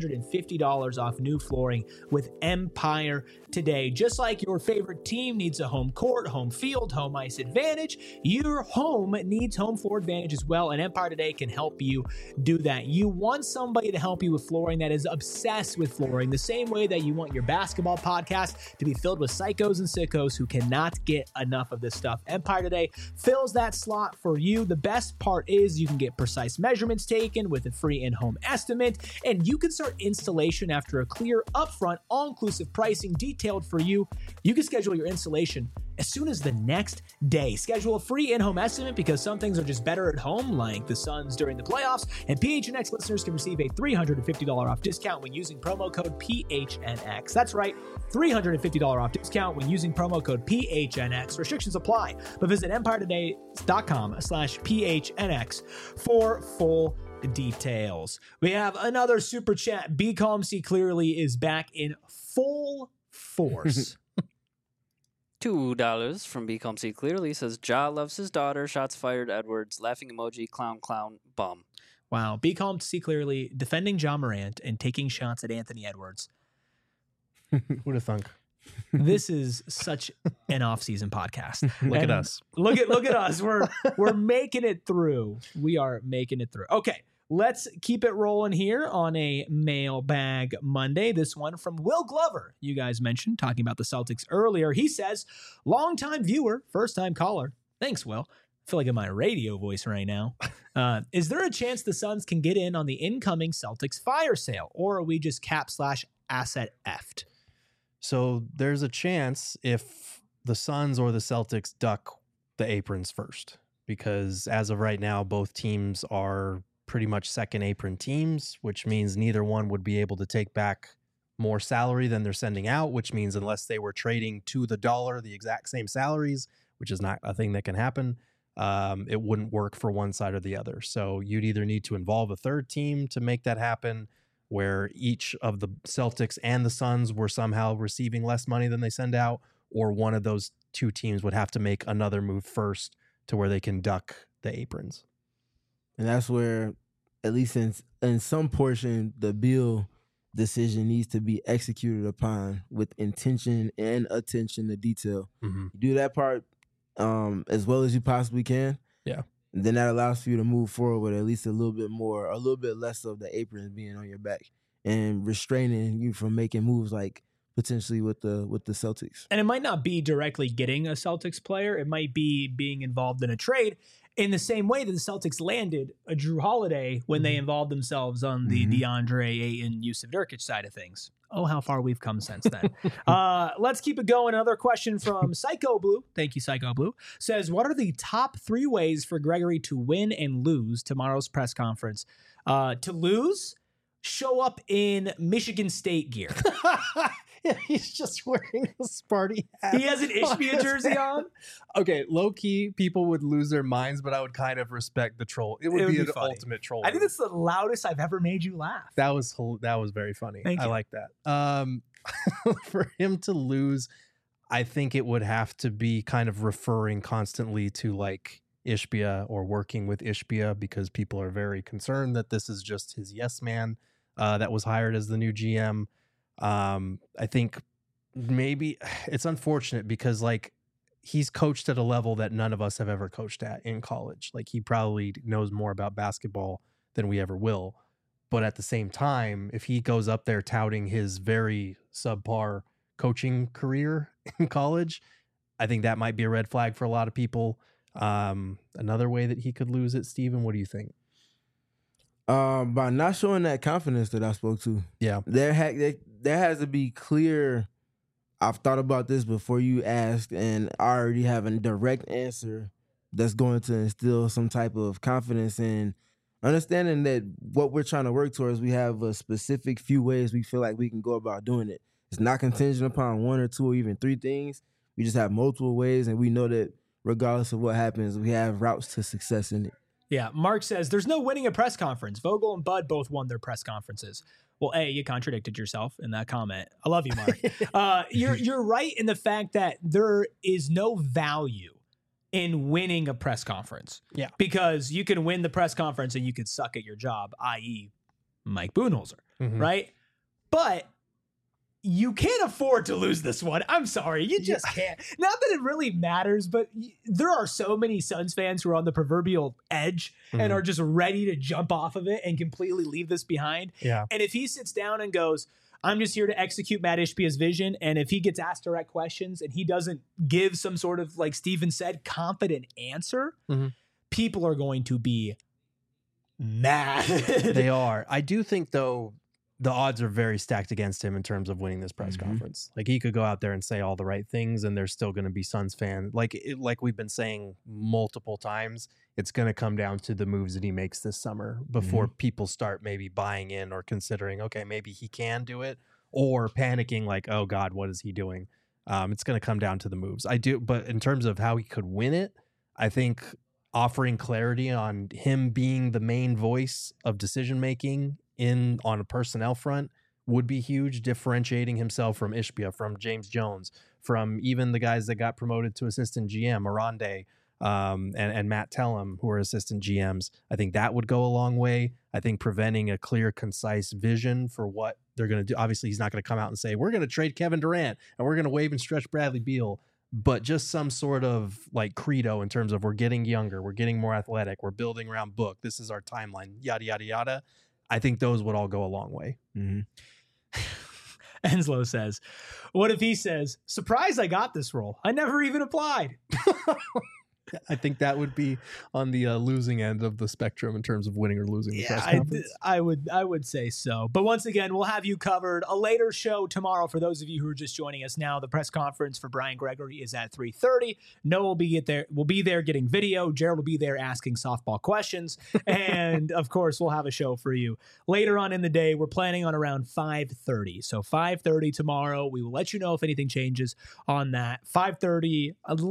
$350 off new flooring with Empire today. Just like your favorite team needs a home court, home field, home ice advantage, your home needs home floor advantage as well, and Empire Today can help you do that. You want somebody to help you with flooring that is obsessed with flooring, the same way that you want your basketball podcast to be filled with psychos and sickos who cannot get enough of this stuff. Empire Today fills that slot for you. The best part is you can get precise measurements taken with a free in-home estimate, and you can start installation after a clear, upfront, all-inclusive pricing detailed for you. You can schedule your installation as soon as the next day. Schedule a free in-home estimate because some things are just better at home, like the Suns during the playoffs, and PHNX listeners can receive a $350 off discount when using promo code PHNX. That's right, $350 off discount when using promo code PHNX. Restrictions apply, but visit EmpireToday.com/PHNX for full details. We have another super chat. Be Calm, See Clearly is back in full force. $2 from Be Calm, See Clearly says, Ja loves his daughter, shots fired, Edwards, laughing emoji, clown, clown, bum. Wow. Be Calm, See Clearly, defending Ja Morant and taking shots at Anthony Edwards. Who'd have thunk? This is such an off-season podcast. Look at us. Look at us. We're making it through. We are making it through. Okay. Let's keep it rolling here on a Mailbag Monday. This one from Will Glover. You guys mentioned talking about the Celtics earlier. He says, longtime viewer, first-time caller. Thanks, Will. I feel like in my radio voice right now. Is there a chance the Suns can get in on the incoming Celtics fire sale, or are we just cap/asset effed? So there's a chance if the Suns or the Celtics duck the aprons first, because as of right now, both teams are pretty much second apron teams, which means neither one would be able to take back more salary than they're sending out, which means unless they were trading to the dollar the exact same salaries, which is not a thing that can happen, it wouldn't work for one side or the other. So you'd either need to involve a third team to make that happen, where each of the Celtics and the Suns were somehow receiving less money than they send out, or one of those two teams would have to make another move first to where they can duck the aprons. And that's where, at least in some portion, the Beal decision needs to be executed upon with intention and attention to detail. Mm-hmm. You do that part as well as you possibly can. Yeah. And then that allows for you to move forward with at least a little bit less of the aprons being on your back and restraining you from making moves like potentially with the Celtics. And it might not be directly getting a Celtics player. It might be being involved in a trade in the same way that the Celtics landed a Drew Holiday when they involved themselves on the DeAndre Ayton, Yusuf Nurkic side of things. Oh, how far we've come since then. Let's keep it going. Another question from Psycho Blue. Thank you, Psycho Blue. Says, what are the top 3 ways for Gregory to win and lose tomorrow's press conference? To lose, show up in Michigan State gear. Yeah, he's just wearing a Sparty hat. He has an Ishbia jersey on. Okay, low key, people would lose their minds, but I would kind of respect the troll. It would be an funny. ultimate troll. I think that's the loudest I've ever made you laugh. That was very funny. Thank I you. like that. For him to lose, I think it would have to be kind of referring constantly to like Ishbia or working with Ishbia, because people are very concerned that this is just his yes man that was hired as the new GM. I think maybe it's unfortunate because like he's coached at a level that none of us have ever coached at in college. Like he probably knows more about basketball than we ever will. But at the same time, if he goes up there touting his very subpar coaching career in college, I think that might be a red flag for a lot of people. Another way that he could lose it, Steven, what do you think? By not showing that confidence that I spoke to. Yeah. There has to be clear, I've thought about this before you asked, and I already have a direct answer that's going to instill some type of confidence in understanding that what we're trying to work towards, we have a specific few ways we feel like we can go about doing it. It's not contingent upon 1 or 2 or even 3 things. We just have multiple ways, and we know that regardless of what happens, we have routes to success in it. Yeah, Mark says, there's no winning a press conference. Vogel and Bud both won their press conferences. Well, A, you contradicted yourself in that comment. I love you, Mark. You're right in the fact that there is no value in winning a press conference. Yeah. Because you can win the press conference and you could suck at your job, i.e. Mike Budenholzer, right? But you can't afford to lose this one. I'm sorry. You just can't. Not that it really matters, but there are so many Suns fans who are on the proverbial edge and are just ready to jump off of it and completely leave this behind. Yeah. And if he sits down and goes, I'm just here to execute Matt Ishbia's vision, and if he gets asked direct questions and he doesn't give some sort of, like Steven said, confident answer, people are going to be mad. They are. I do think, though, the odds are very stacked against him in terms of winning this press conference. Like he could go out there and say all the right things, and there's still going to be Suns fans. Like we've been saying multiple times, it's going to come down to the moves that he makes this summer before people start maybe buying in or considering, okay, maybe he can do it, or panicking like, oh God, what is he doing? It's going to come down to the moves. I do, but in terms of how he could win it, I think offering clarity on him being the main voice of decision making on a personnel front would be huge, differentiating himself from Ishbia, from James Jones, from even the guys that got promoted to assistant GM, Arande, and Matt Tellem, who are assistant GMs. I think that would go a long way. I think preventing a clear, concise vision for what they're going to do. Obviously, he's not going to come out and say, we're going to trade Kevin Durant and we're going to waive and stretch Bradley Beal, but just some sort of like credo in terms of we're getting younger, we're getting more athletic, we're building around Book, this is our timeline, yada, yada, yada. I think those would all go a long way. Enslow says, what if he says, surprise, I got this role. I never even applied. I think that would be on the losing end of the spectrum in terms of winning or losing the press conference. I would say so. But once again, we'll have you covered. A later show tomorrow for those of you who are just joining us now. The press conference for Brian Gregory is at 3:30. Noah will be there getting video. Gerald will be there asking softball questions. And of course, we'll have a show for you later on in the day. We're planning on around 5:30. So 5:30 tomorrow. We will let you know if anything changes on that. 5:30, a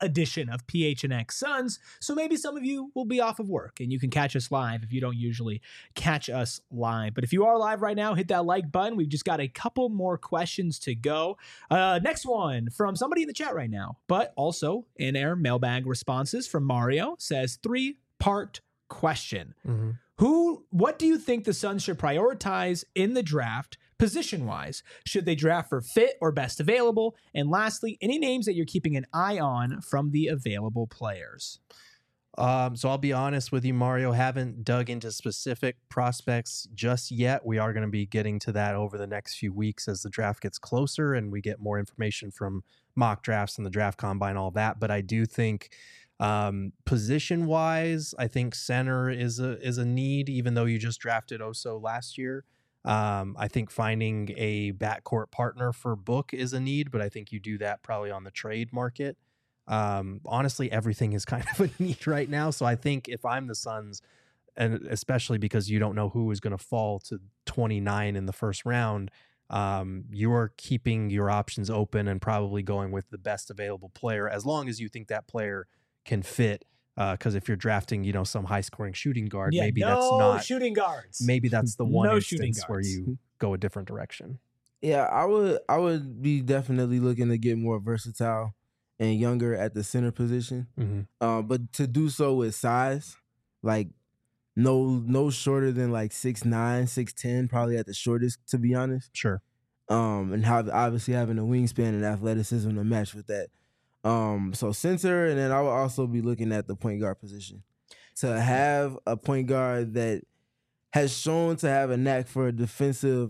edition of PHNX Suns. So maybe some of you will be off of work and you can catch us live if you don't usually catch us live. But if you are live right now, hit that like button. We've just got a couple more questions to go. Next one from somebody in the chat right now, but also in our mailbag responses from Mario says 3-part question. What do you think the Suns should prioritize in the draft position-wise? Should they draft for fit or best available? And lastly, any names that you're keeping an eye on from the available players? So I'll be honest with you, Mario, haven't dug into specific prospects just yet. We are going to be getting to that over the next few weeks as the draft gets closer and we get more information from mock drafts and the draft combine, all that. But I do think position wise, I think center is a need, even though you just drafted Oso last year. I think finding a backcourt partner for Book is a need, but I think you do that probably on the trade market. Honestly, everything is kind of a need right now. So I think if I'm the Suns, and especially because you don't know who is going to fall to 29 in the first round, you're keeping your options open and probably going with the best available player, as long as you think that player can fit. Because if you're drafting, some high scoring shooting guard, maybe that's not shooting guards. Maybe that's the one instance where you go a different direction. Yeah, I would be definitely looking to get more versatile and younger at the center position. But to do so with size, like no shorter than like 6'9", 6'10", probably at the shortest, to be honest. Sure. And obviously having a wingspan and athleticism to match with that. So center, and then I would also be looking at the point guard position. To have a point guard that has shown to have a knack for a defensive,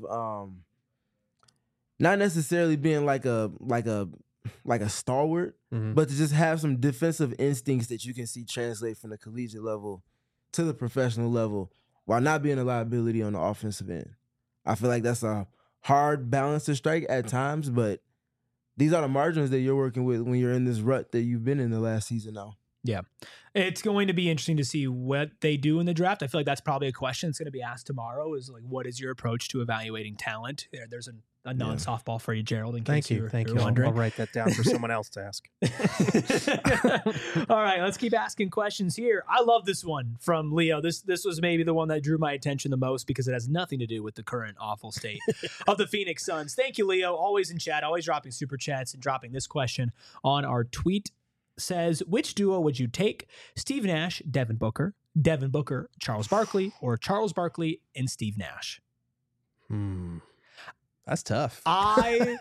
not necessarily being like a stalwart, but to just have some defensive instincts that you can see translate from the collegiate level to the professional level while not being a liability on the offensive end. I feel like that's a hard balance to strike at times, but these are the margins that you're working with when you're in this rut that you've been in the last season now. Yeah. It's going to be interesting to see what they do in the draft. I feel like that's probably a question that's going to be asked tomorrow is like, what is your approach to evaluating talent? There's a non-softball for you, Gerald, in case you're wondering. I'll write that down for someone else to ask. All right, let's keep asking questions here. I love this one from Leo. This was maybe the one that drew my attention the most because it has nothing to do with the current awful state of the Phoenix Suns. Thank you, Leo. Always in chat, always dropping super chats and dropping this question on our tweet. Says, which duo would you take? Steve Nash, Devin Booker, Charles Barkley, or Charles Barkley and Steve Nash? That's tough. I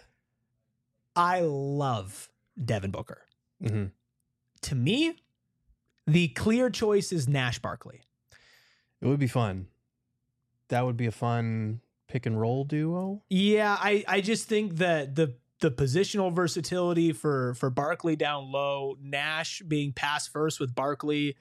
love Devin Booker. To me, the clear choice is Nash Barkley. It would be fun. That would be a fun pick and roll duo. Yeah, I just think that the positional versatility for Barkley down low, Nash being pass first with Barkley,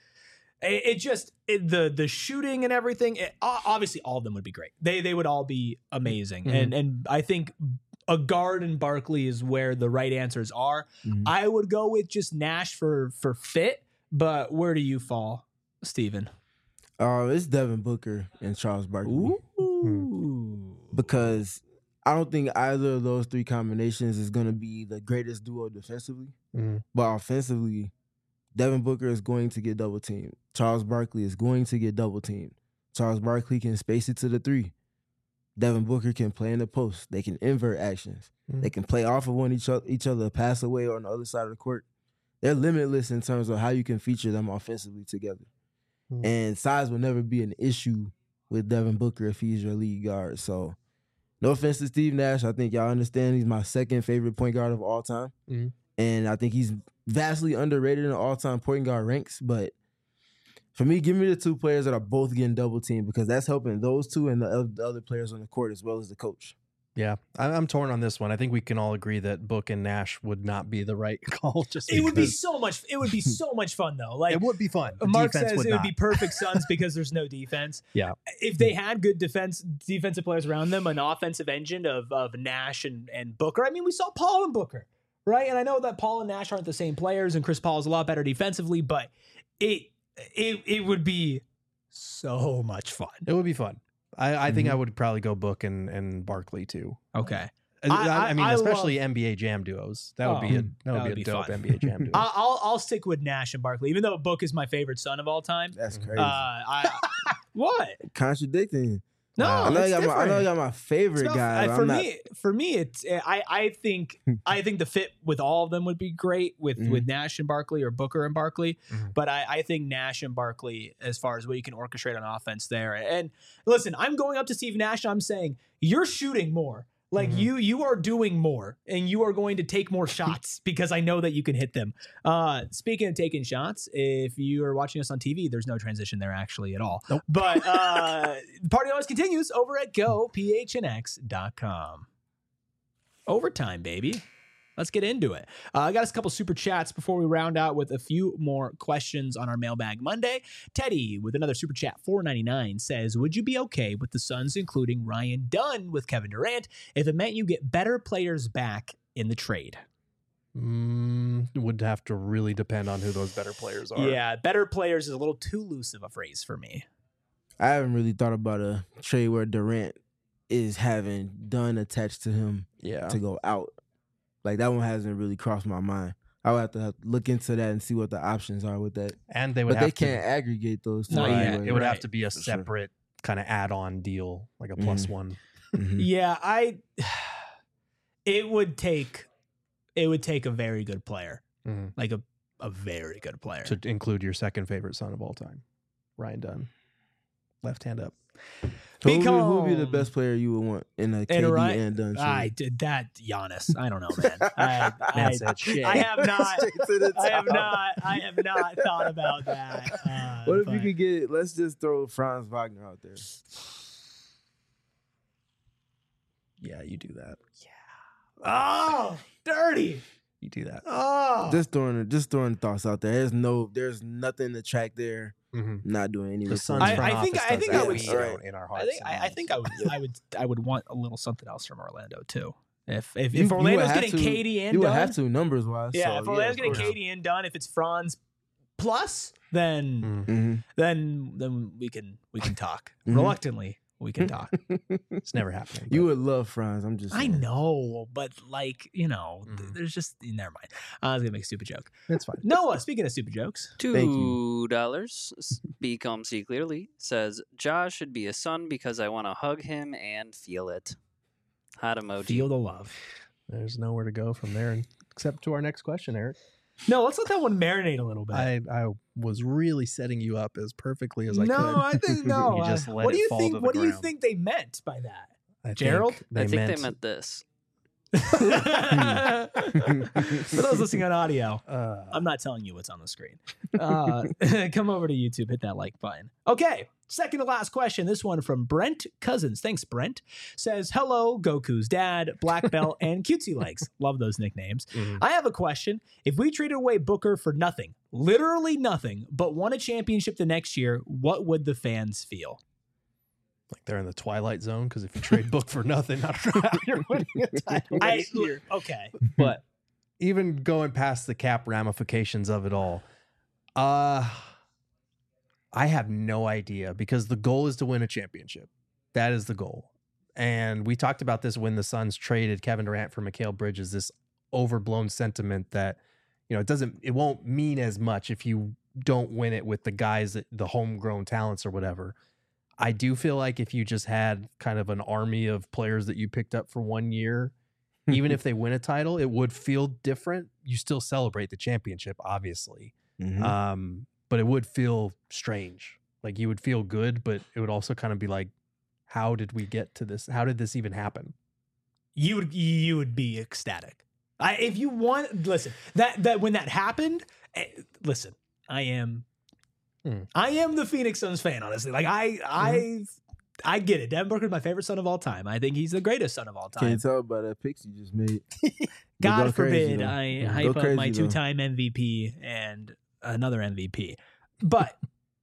the shooting and everything. Obviously, all of them would be great. They would all be amazing, and I think a guard in Barkley is where the right answers are. I would go with just Nash for fit, but where do you fall, Steven? It's Devin Booker and Charles Barkley. Because I don't think either of those three combinations is going to be the greatest duo defensively. But offensively, Devin Booker is going to get double teamed. Charles Barkley is going to get double teamed. Charles Barkley can space it to the three. Devin Booker can play in the post. They can invert actions. They can play off of each other, pass away on the other side of the court. They're limitless in terms of how you can feature them offensively together. And size will never be an issue with Devin Booker if he's your lead guard. So, no offense to Steve Nash. I think y'all understand he's my second favorite point guard of all time. And I think he's vastly underrated in the all-time point guard ranks. But for me, give me the two players that are both getting double teamed because that's helping those two and the other players on the court as well as the coach. Yeah, I'm torn on this one. I think we can all agree that Book and Nash would not be the right call. It would be so much. It would be so much fun though. Like it would be fun. Mark says it would be perfect Suns because there's no defense. Yeah, if they had good defensive players around them, an offensive engine of Nash and Booker. I mean, we saw Paul and Booker, right? And I know that Paul and Nash aren't the same players, and Chris Paul is a lot better defensively, but it would be so much fun. It would be fun. I think I would probably go Book and Barkley too. Okay. I mean, I especially NBA Jam duos. That would be a dope fun. NBA Jam duo. I'll stick with Nash and Barkley, even though Book is my favorite son of all time. That's crazy. What? Contradicting. No, I know it's I different. know you got my favorite It's not- guy. but for me, it's I think the fit with all of them would be great with Nash and Barkley or Booker and Barkley, but I think Nash and Barkley as far as what you can orchestrate on offense there. And listen, I'm going up to Steve Nash. I'm saying you're shooting more. Like you are doing more, and you are going to take more shots because I know that you can hit them. Speaking of taking shots, if you are watching us on TV, there's no transition there actually at all. Nope. But the party always continues over at gophnx.com. Overtime, baby. Let's get into it. I got us a couple super chats before we round out with a few more questions on our Mailbag Monday. Teddy with another super chat, $4.99, says, would you be okay with the Suns including Ryan Dunn with Kevin Durant if it meant you get better players back in the trade? Would have to really depend on who those better players are. Yeah, better players is a little too loose of a phrase for me. I haven't really thought about a trade where Durant is having Dunn attached to him to go out. Like, that one hasn't really crossed my mind. I would have to look into that and see what the options are with that. And they would But they can't aggregate those two. No, yeah, anyway. It would have Right. to be a For sure. separate kind of add-on deal, like a plus one. Mhm. Yeah, it would take a very good player. Mhm. Like a very good player. To include your second favorite son of all time, Ryan Dunn. Left hand up. Who would be the best player you would want in a KD and Dunn trade? I did that, Giannis. I don't know, man. Man said shit. I have not. Straight to the I have top. not thought about that. What if you but- could get? Let's just throw Franz Wagner out there. Yeah, you do that. Oh, dirty. You do that. Oh, Just throwing thoughts out there. There's nothing to track there. Mm-hmm. Not doing any. The research. Suns front I think office I does think that. I would. We Right. don't in our hearts. I think I would want a little something else from Orlando too. If You would Orlando's have getting to- KD and you would Dunn, have to numbers wise. yeah. so, If Orlando's of getting course. KD and Dunn, if it's Franz plus, then Mhm. then we can talk. Mhm. Reluctantly, we can talk. It's never happening. You but- would love Franz. I'm just. I saying. know, but like Mhm. there's just never mind. I was gonna make a stupid joke. It's fine. Noah, speaking of stupid jokes, $2. Be calm, see clearly. Says Josh should be a son because I want to hug him and feel it. Hot emoji. feel the love. There's nowhere to go from there except to our next question, Eric. No, let's let that one marinate a little bit. I was really setting you up as perfectly as I no, could. I think no. You just let what do it you fall think? to the What do you ground. think they meant by that? I Gerald? I think they meant this. For those listening on audio, I'm not telling you what's on the screen. Come over to YouTube, hit that like button. Okay, second to last question. This one from Brent Cousins. Thanks, Brent. Says, hello, Goku's dad, Black Belt, and Cutesy Legs. Love those nicknames. Mhm. I have a question. If we traded away Booker for nothing, literally nothing, but won a championship the next year, what would the fans feel? like they're in the twilight zone because if you trade Book for nothing, you're winning a title next year. Okay. But even going past the cap ramifications of it all, I have no idea because the goal is to win a championship. That is the goal. And we talked about this when the Suns traded Kevin Durant for Mikal Bridges, this overblown sentiment that, you know, it won't mean as much if you don't win it with the guys, the homegrown talents or whatever. I do feel like if you just had kind of an army of players that you picked up for 1 year, even if they win a title, it would feel different. You still celebrate the championship, obviously. Mhm. But it would feel strange. Like you would feel good, but it would also kind of be like, how did we get to this? How did this even happen? You would be ecstatic. If you want, listen, that when that happened, listen, I am the Phoenix Suns fan, honestly. Like I get it. Devin Booker is my favorite son of all time. I think he's the greatest son of all Can you time. tell by that picks you just made? God Go crazy, forbid though. I Yeah, hype go up my crazy, though. 2-time MVP and another MVP. But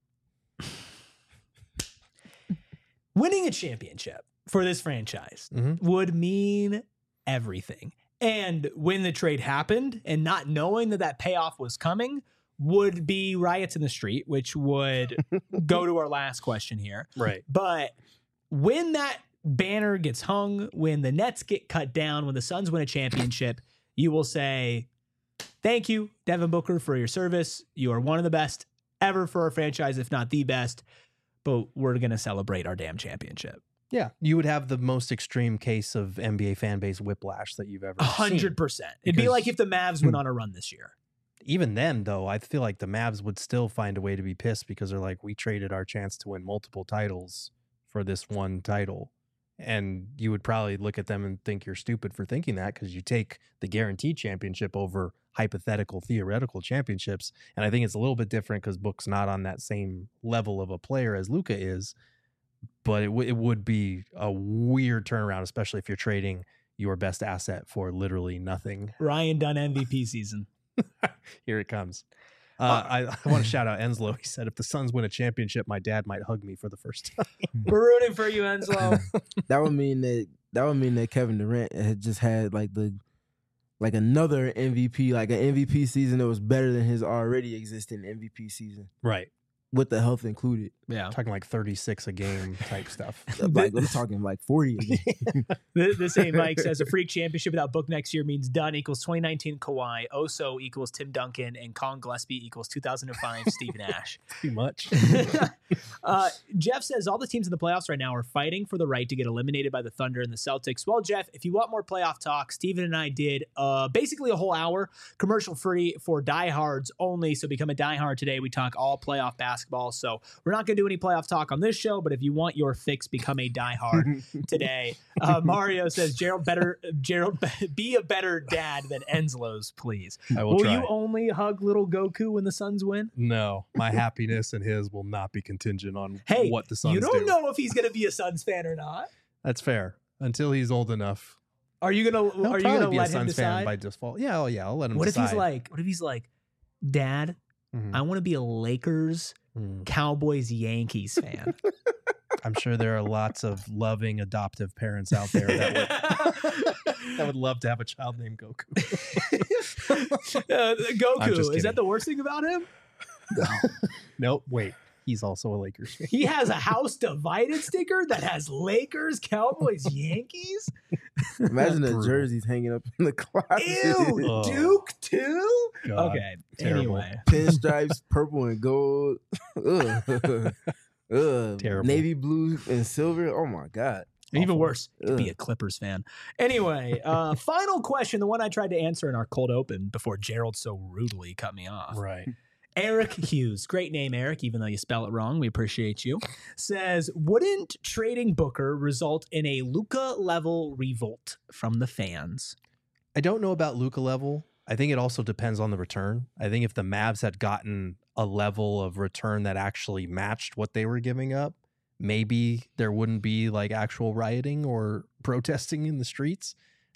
winning a championship for this franchise Mhm. would mean everything. And when the trade happened and not knowing that payoff was coming would be riots in the street, which would go to our last question here. Right. But when that banner gets hung, when the Nets get cut down, when the Suns win a championship, you will say, thank you, Devin Booker, for your service. You are one of the best ever for our franchise, if not the best. But we're going to celebrate our damn championship. Yeah, you would have the most extreme case of NBA fan base whiplash that you've ever 100%. seen. It'd be like if the Mavs went on a run this year. Even then, though, I feel like the Mavs would still find a way to be pissed because they're like, we traded our chance to win multiple titles for this one title. And you would probably look at them and think you're stupid for thinking that, because you take the guaranteed championship over hypothetical, theoretical championships. And I think it's a little bit different because Book's not on that same level of a player as Luka is. But it would be a weird turnaround, especially if you're trading your best asset for literally nothing. Ryan Dunn MVP season. Here it comes. I want to shout out Enslow. He said, if the Suns win a championship, my dad might hug me for the first time. We're rooting for you, Enslow. That would mean that Kevin Durant had just had another MVP, like an MVP season that was better than his already existing MVP season, Right. with the health included. Yeah. Talking like 36 a game type stuff. Like I'm talking like 40 again. The same Mike says a freak championship without Book next year means Dunn equals 2019 Kawhi, Oso equals Tim Duncan, and Colin Gillespie equals 2005 Steve Nash. Too much. Jeff says all the teams in the playoffs right now are fighting for the right to get eliminated by the Thunder and the Celtics. Well, Jeff, if you want more playoff talk, Steven and I did basically a whole hour commercial free for diehards only. So become a diehard today. We talk all playoff basketball. So we're not going to do any playoff talk on this show, but if you want your fix, become a diehard today. Mario says, Gerald, be a better dad than Enslow's, please. I will try. You only hug little Goku when the Suns win? No, my happiness and his will not be contingent on Hey, what the Suns you don't do. know if he's going to be a Suns fan or not. That's fair. Until he's old enough. Are you gonna He'll Are you probably gonna be let a him Suns fan decide? by default. Yeah, I'll let him What decide. if he's like, Dad, Mhm. I want to be a Lakers, Cowboys, Yankees fan. I'm sure there are lots of loving adoptive parents out there that would love to have a child named Goku. I'm Goku, just is that kidding. the worst thing about him? Nope. Wait, he's also a Lakers fan. He has a house divided sticker that has Lakers, Cowboys, Yankees. Imagine the Brutal. jerseys hanging up in the closet. Ew, Oh. Duke too. God, Okay. terrible. Anyway, Pinstripes, purple and gold. Ugh. Ugh. Terrible. Navy blue and silver. Oh my God. even Awful. worse, to be Ugh. a Clippers fan. Anyway, final question, the one I tried to answer in our cold open before Gerald so rudely cut me off. Right. Eric Hughes, great name, Eric, even though you spell it wrong. We appreciate you. Says, wouldn't trading Booker result in a Luka level revolt from the fans? I don't know about Luka level. I think it also depends on the return. I think if the Mavs had gotten a level of return that actually matched what they were giving up, maybe there wouldn't be like actual rioting or protesting in the streets.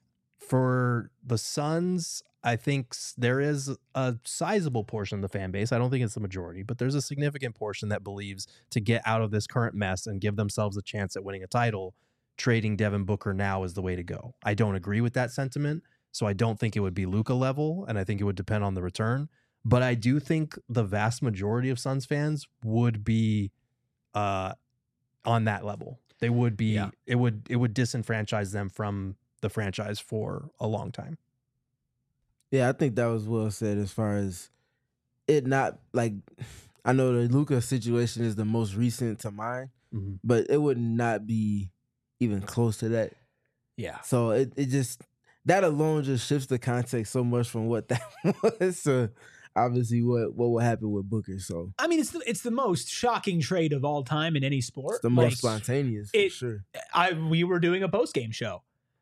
For the Suns, I think there is a sizable portion of the fan base. I don't think it's the majority, but there's a significant portion that believes to get out of this current mess and give themselves a chance at winning a title, trading Devin Booker now is the way to go. I don't agree with that sentiment, so I don't think it would be Luka level, and I think it would depend on the return. But I do think the vast majority of Suns fans would be on that level. They would be. Yeah. It would disenfranchise them from the franchise for a long time. Yeah, I think that was well said as far as it not like I know the Luka situation is the most recent to mine, Mm-hmm. but it would not be even close to that. Yeah. So it just that alone just shifts the context so much from what that was to obviously what will happen with Booker. So I mean, it's the most shocking trade of all time in any sport. it's the most spontaneous for sure. We were doing a post-game show.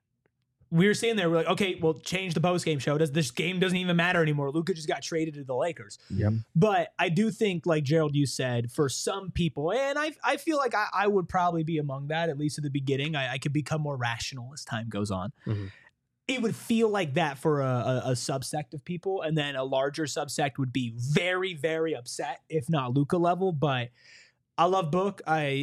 We were sitting there, we're like, okay, well, change the post-game show. This game doesn't even matter anymore. Luka just got traded to the Lakers. Yep. But I do think, like Gerald, you said, for some people, and I feel like I would probably be among that, at least at the beginning. I could become more rational as time goes on. Mhm. It would feel like that for a subsect of people, and then a larger subsect would be very, very upset, if not Luka level. But I love Book.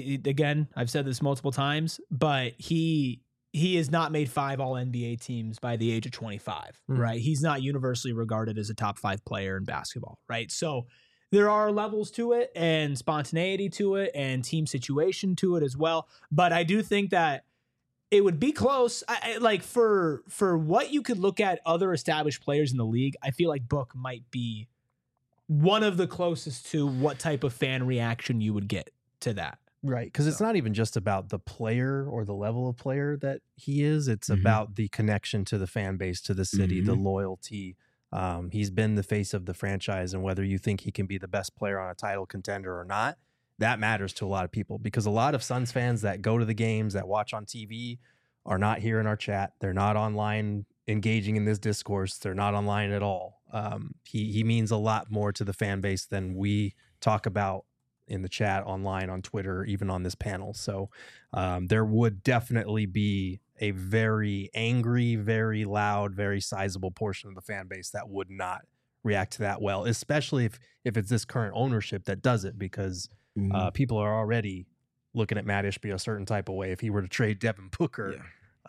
I've said this multiple times, but he has not made 5 All-NBA teams by the age of 25, right? He's not universally regarded as a top 5 player in basketball, right? So there are levels to it and spontaneity to it and team situation to it as well. But I do think that It would be close. Like for what you could look at other established players in the league, I feel like Book might be one of the closest to what type of fan reaction you would get to that. Right. Because it's not even just about the player or the level of player that he is. It's about the connection to the fan base, to the city, the loyalty. He's been the face of the franchise, and whether you think he can be the best player on a title contender or not, that matters to a lot of people, because a lot of Suns fans that go to the games, that watch on TV, are not here in our chat. They're not online engaging in this discourse. They're not online at all. He means a lot more to the fan base than we talk about in the chat, online, on Twitter, even on this panel. So there would definitely be a very angry, very loud, very sizable portion of the fan base that would not react to that well, especially if it's this current ownership that does it, because people are already looking at Matt Ishbia a certain type of way. If he were to trade Devin Booker,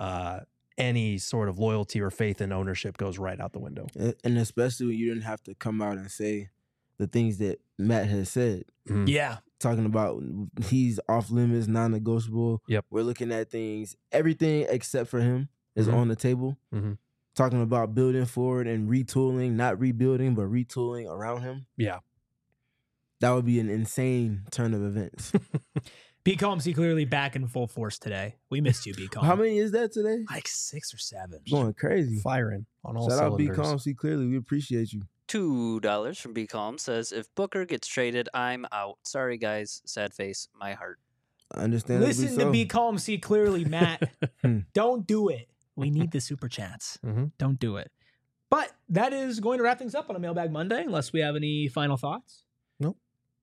any sort of loyalty or faith in ownership goes right out the window. And especially when you didn't have to come out and say the things that Matt has said. Yeah. Talking about he's off limits, non-negotiable. Yep. We're looking at things, everything except for him is on the table. Talking about building forward and retooling, not rebuilding, but retooling around him. Yeah. That would be an insane turn of events. B. Combs, clearly back in full force today. We missed you, B. Combs. How many is that today? Like 6 or 7. Going crazy. Firing on all Shout cylinders. out B. Combs, clearly. We appreciate you. $2 from B Calm says, if Booker gets traded, I'm out. Sorry, guys. Sad face. My heart. Understandably Listen so. to B. Calm, see clearly, Matt. Don't do it. We need the super chats. Don't do it. But that is going to wrap things up on a Mailbag Monday, unless we have any final thoughts. Nope.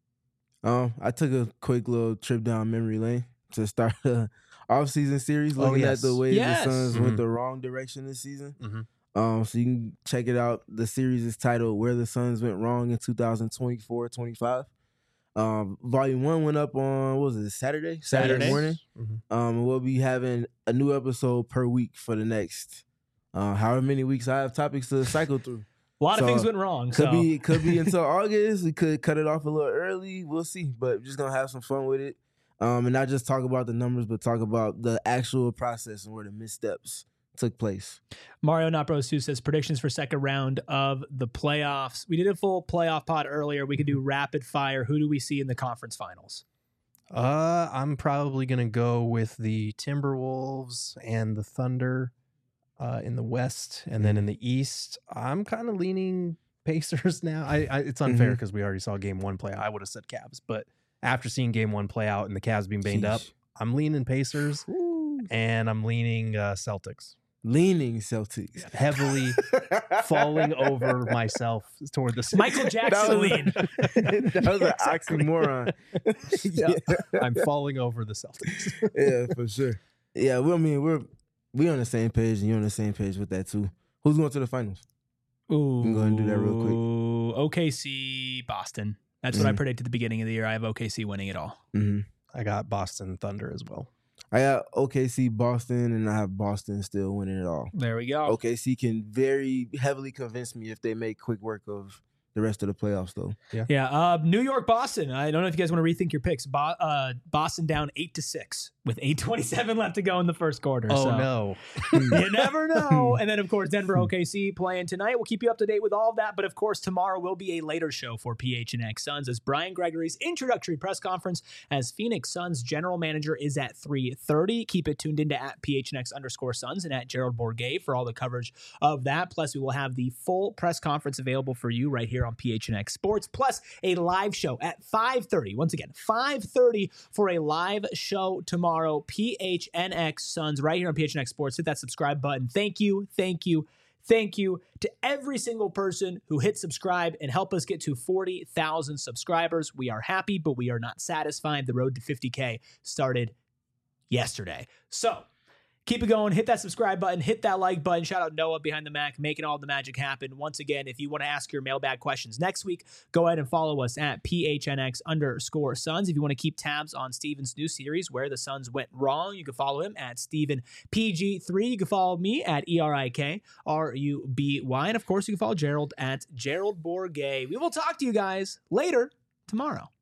I took a quick little trip down memory lane to start the off-season series, looking at the way the Suns went the wrong direction this season. So you can check it out. The series is titled Where the Suns Went Wrong in 2024-25. Volume 1 went up on, what was it, Saturday morning. We'll be having a new episode per week for the next however many weeks I have topics to cycle through. A lot of things went wrong. Could be until August. We could cut it off a little early. We'll see. But just going to have some fun with it. And not just talk about the numbers, but talk about the actual process and where the missteps took place. Mario Not Bros 2 says predictions for second round of the playoffs. We did a full playoff pod earlier. We could do rapid fire. Who do we see in the conference finals? I'm probably going to go with the Timberwolves and the Thunder in the West. And then in the East, I'm kind of leaning Pacers now. It's unfair because we already saw game 1 play out. I would have said Cavs, but after seeing game 1 play out and the Cavs being banged up, I'm leaning Pacers and I'm leaning Celtics. Leaning Celtics. Heavily falling over myself toward the Michael Jackson lean. That was an oxymoron. I'm falling over the Celtics. Yeah, for sure. Yeah, we're on the same page, and you're on the same page with that too. Who's going to the finals? Ooh, I'm going to do that real quick. OKC, Boston. That's what I predicted at the beginning of the year. I have OKC winning it all. I got Boston Thunder as well. I got OKC, Boston, and I have Boston still winning it all. There we go. OKC can very heavily convince me if they make quick work of the rest of the playoffs, though. Yeah. New York, Boston. I don't know if you guys want to rethink your picks. Boston down 8-6 with 8:27 left to go in the first quarter. No. You never know. And then, of course, Denver OKC playing tonight. We'll keep you up to date with all of that. But, of course, tomorrow will be a later show for PHNX Suns as Brian Gregory's introductory press conference as Phoenix Suns general manager is at 3:30. Keep it tuned into at PHNX_Suns and at Gerald Bourguet for all the coverage of that. Plus, we will have the full press conference available for you right here on PHNX Sports, plus a live show at 5:30. Once again, 5:30 for a live show tomorrow. PHNX Suns right here on PHNX Sports. Hit that subscribe button. Thank you to every single person who hit subscribe and help us get to 40,000 subscribers. We are happy, but we are not satisfied. The road to 50K started yesterday. So keep it going. Hit that subscribe button. Hit that like button. Shout out Noah behind the Mac, making all the magic happen. Once again, if you want to ask your mailbag questions next week, go ahead and follow us at PHNX_Suns. If you want to keep tabs on Steven's new series, Where the Suns Went Wrong, you can follow him at StevenPG3. You can follow me at ERIKRUBY. And of course, you can follow Gerald at Gerald Bourguet. We will talk to you guys later tomorrow.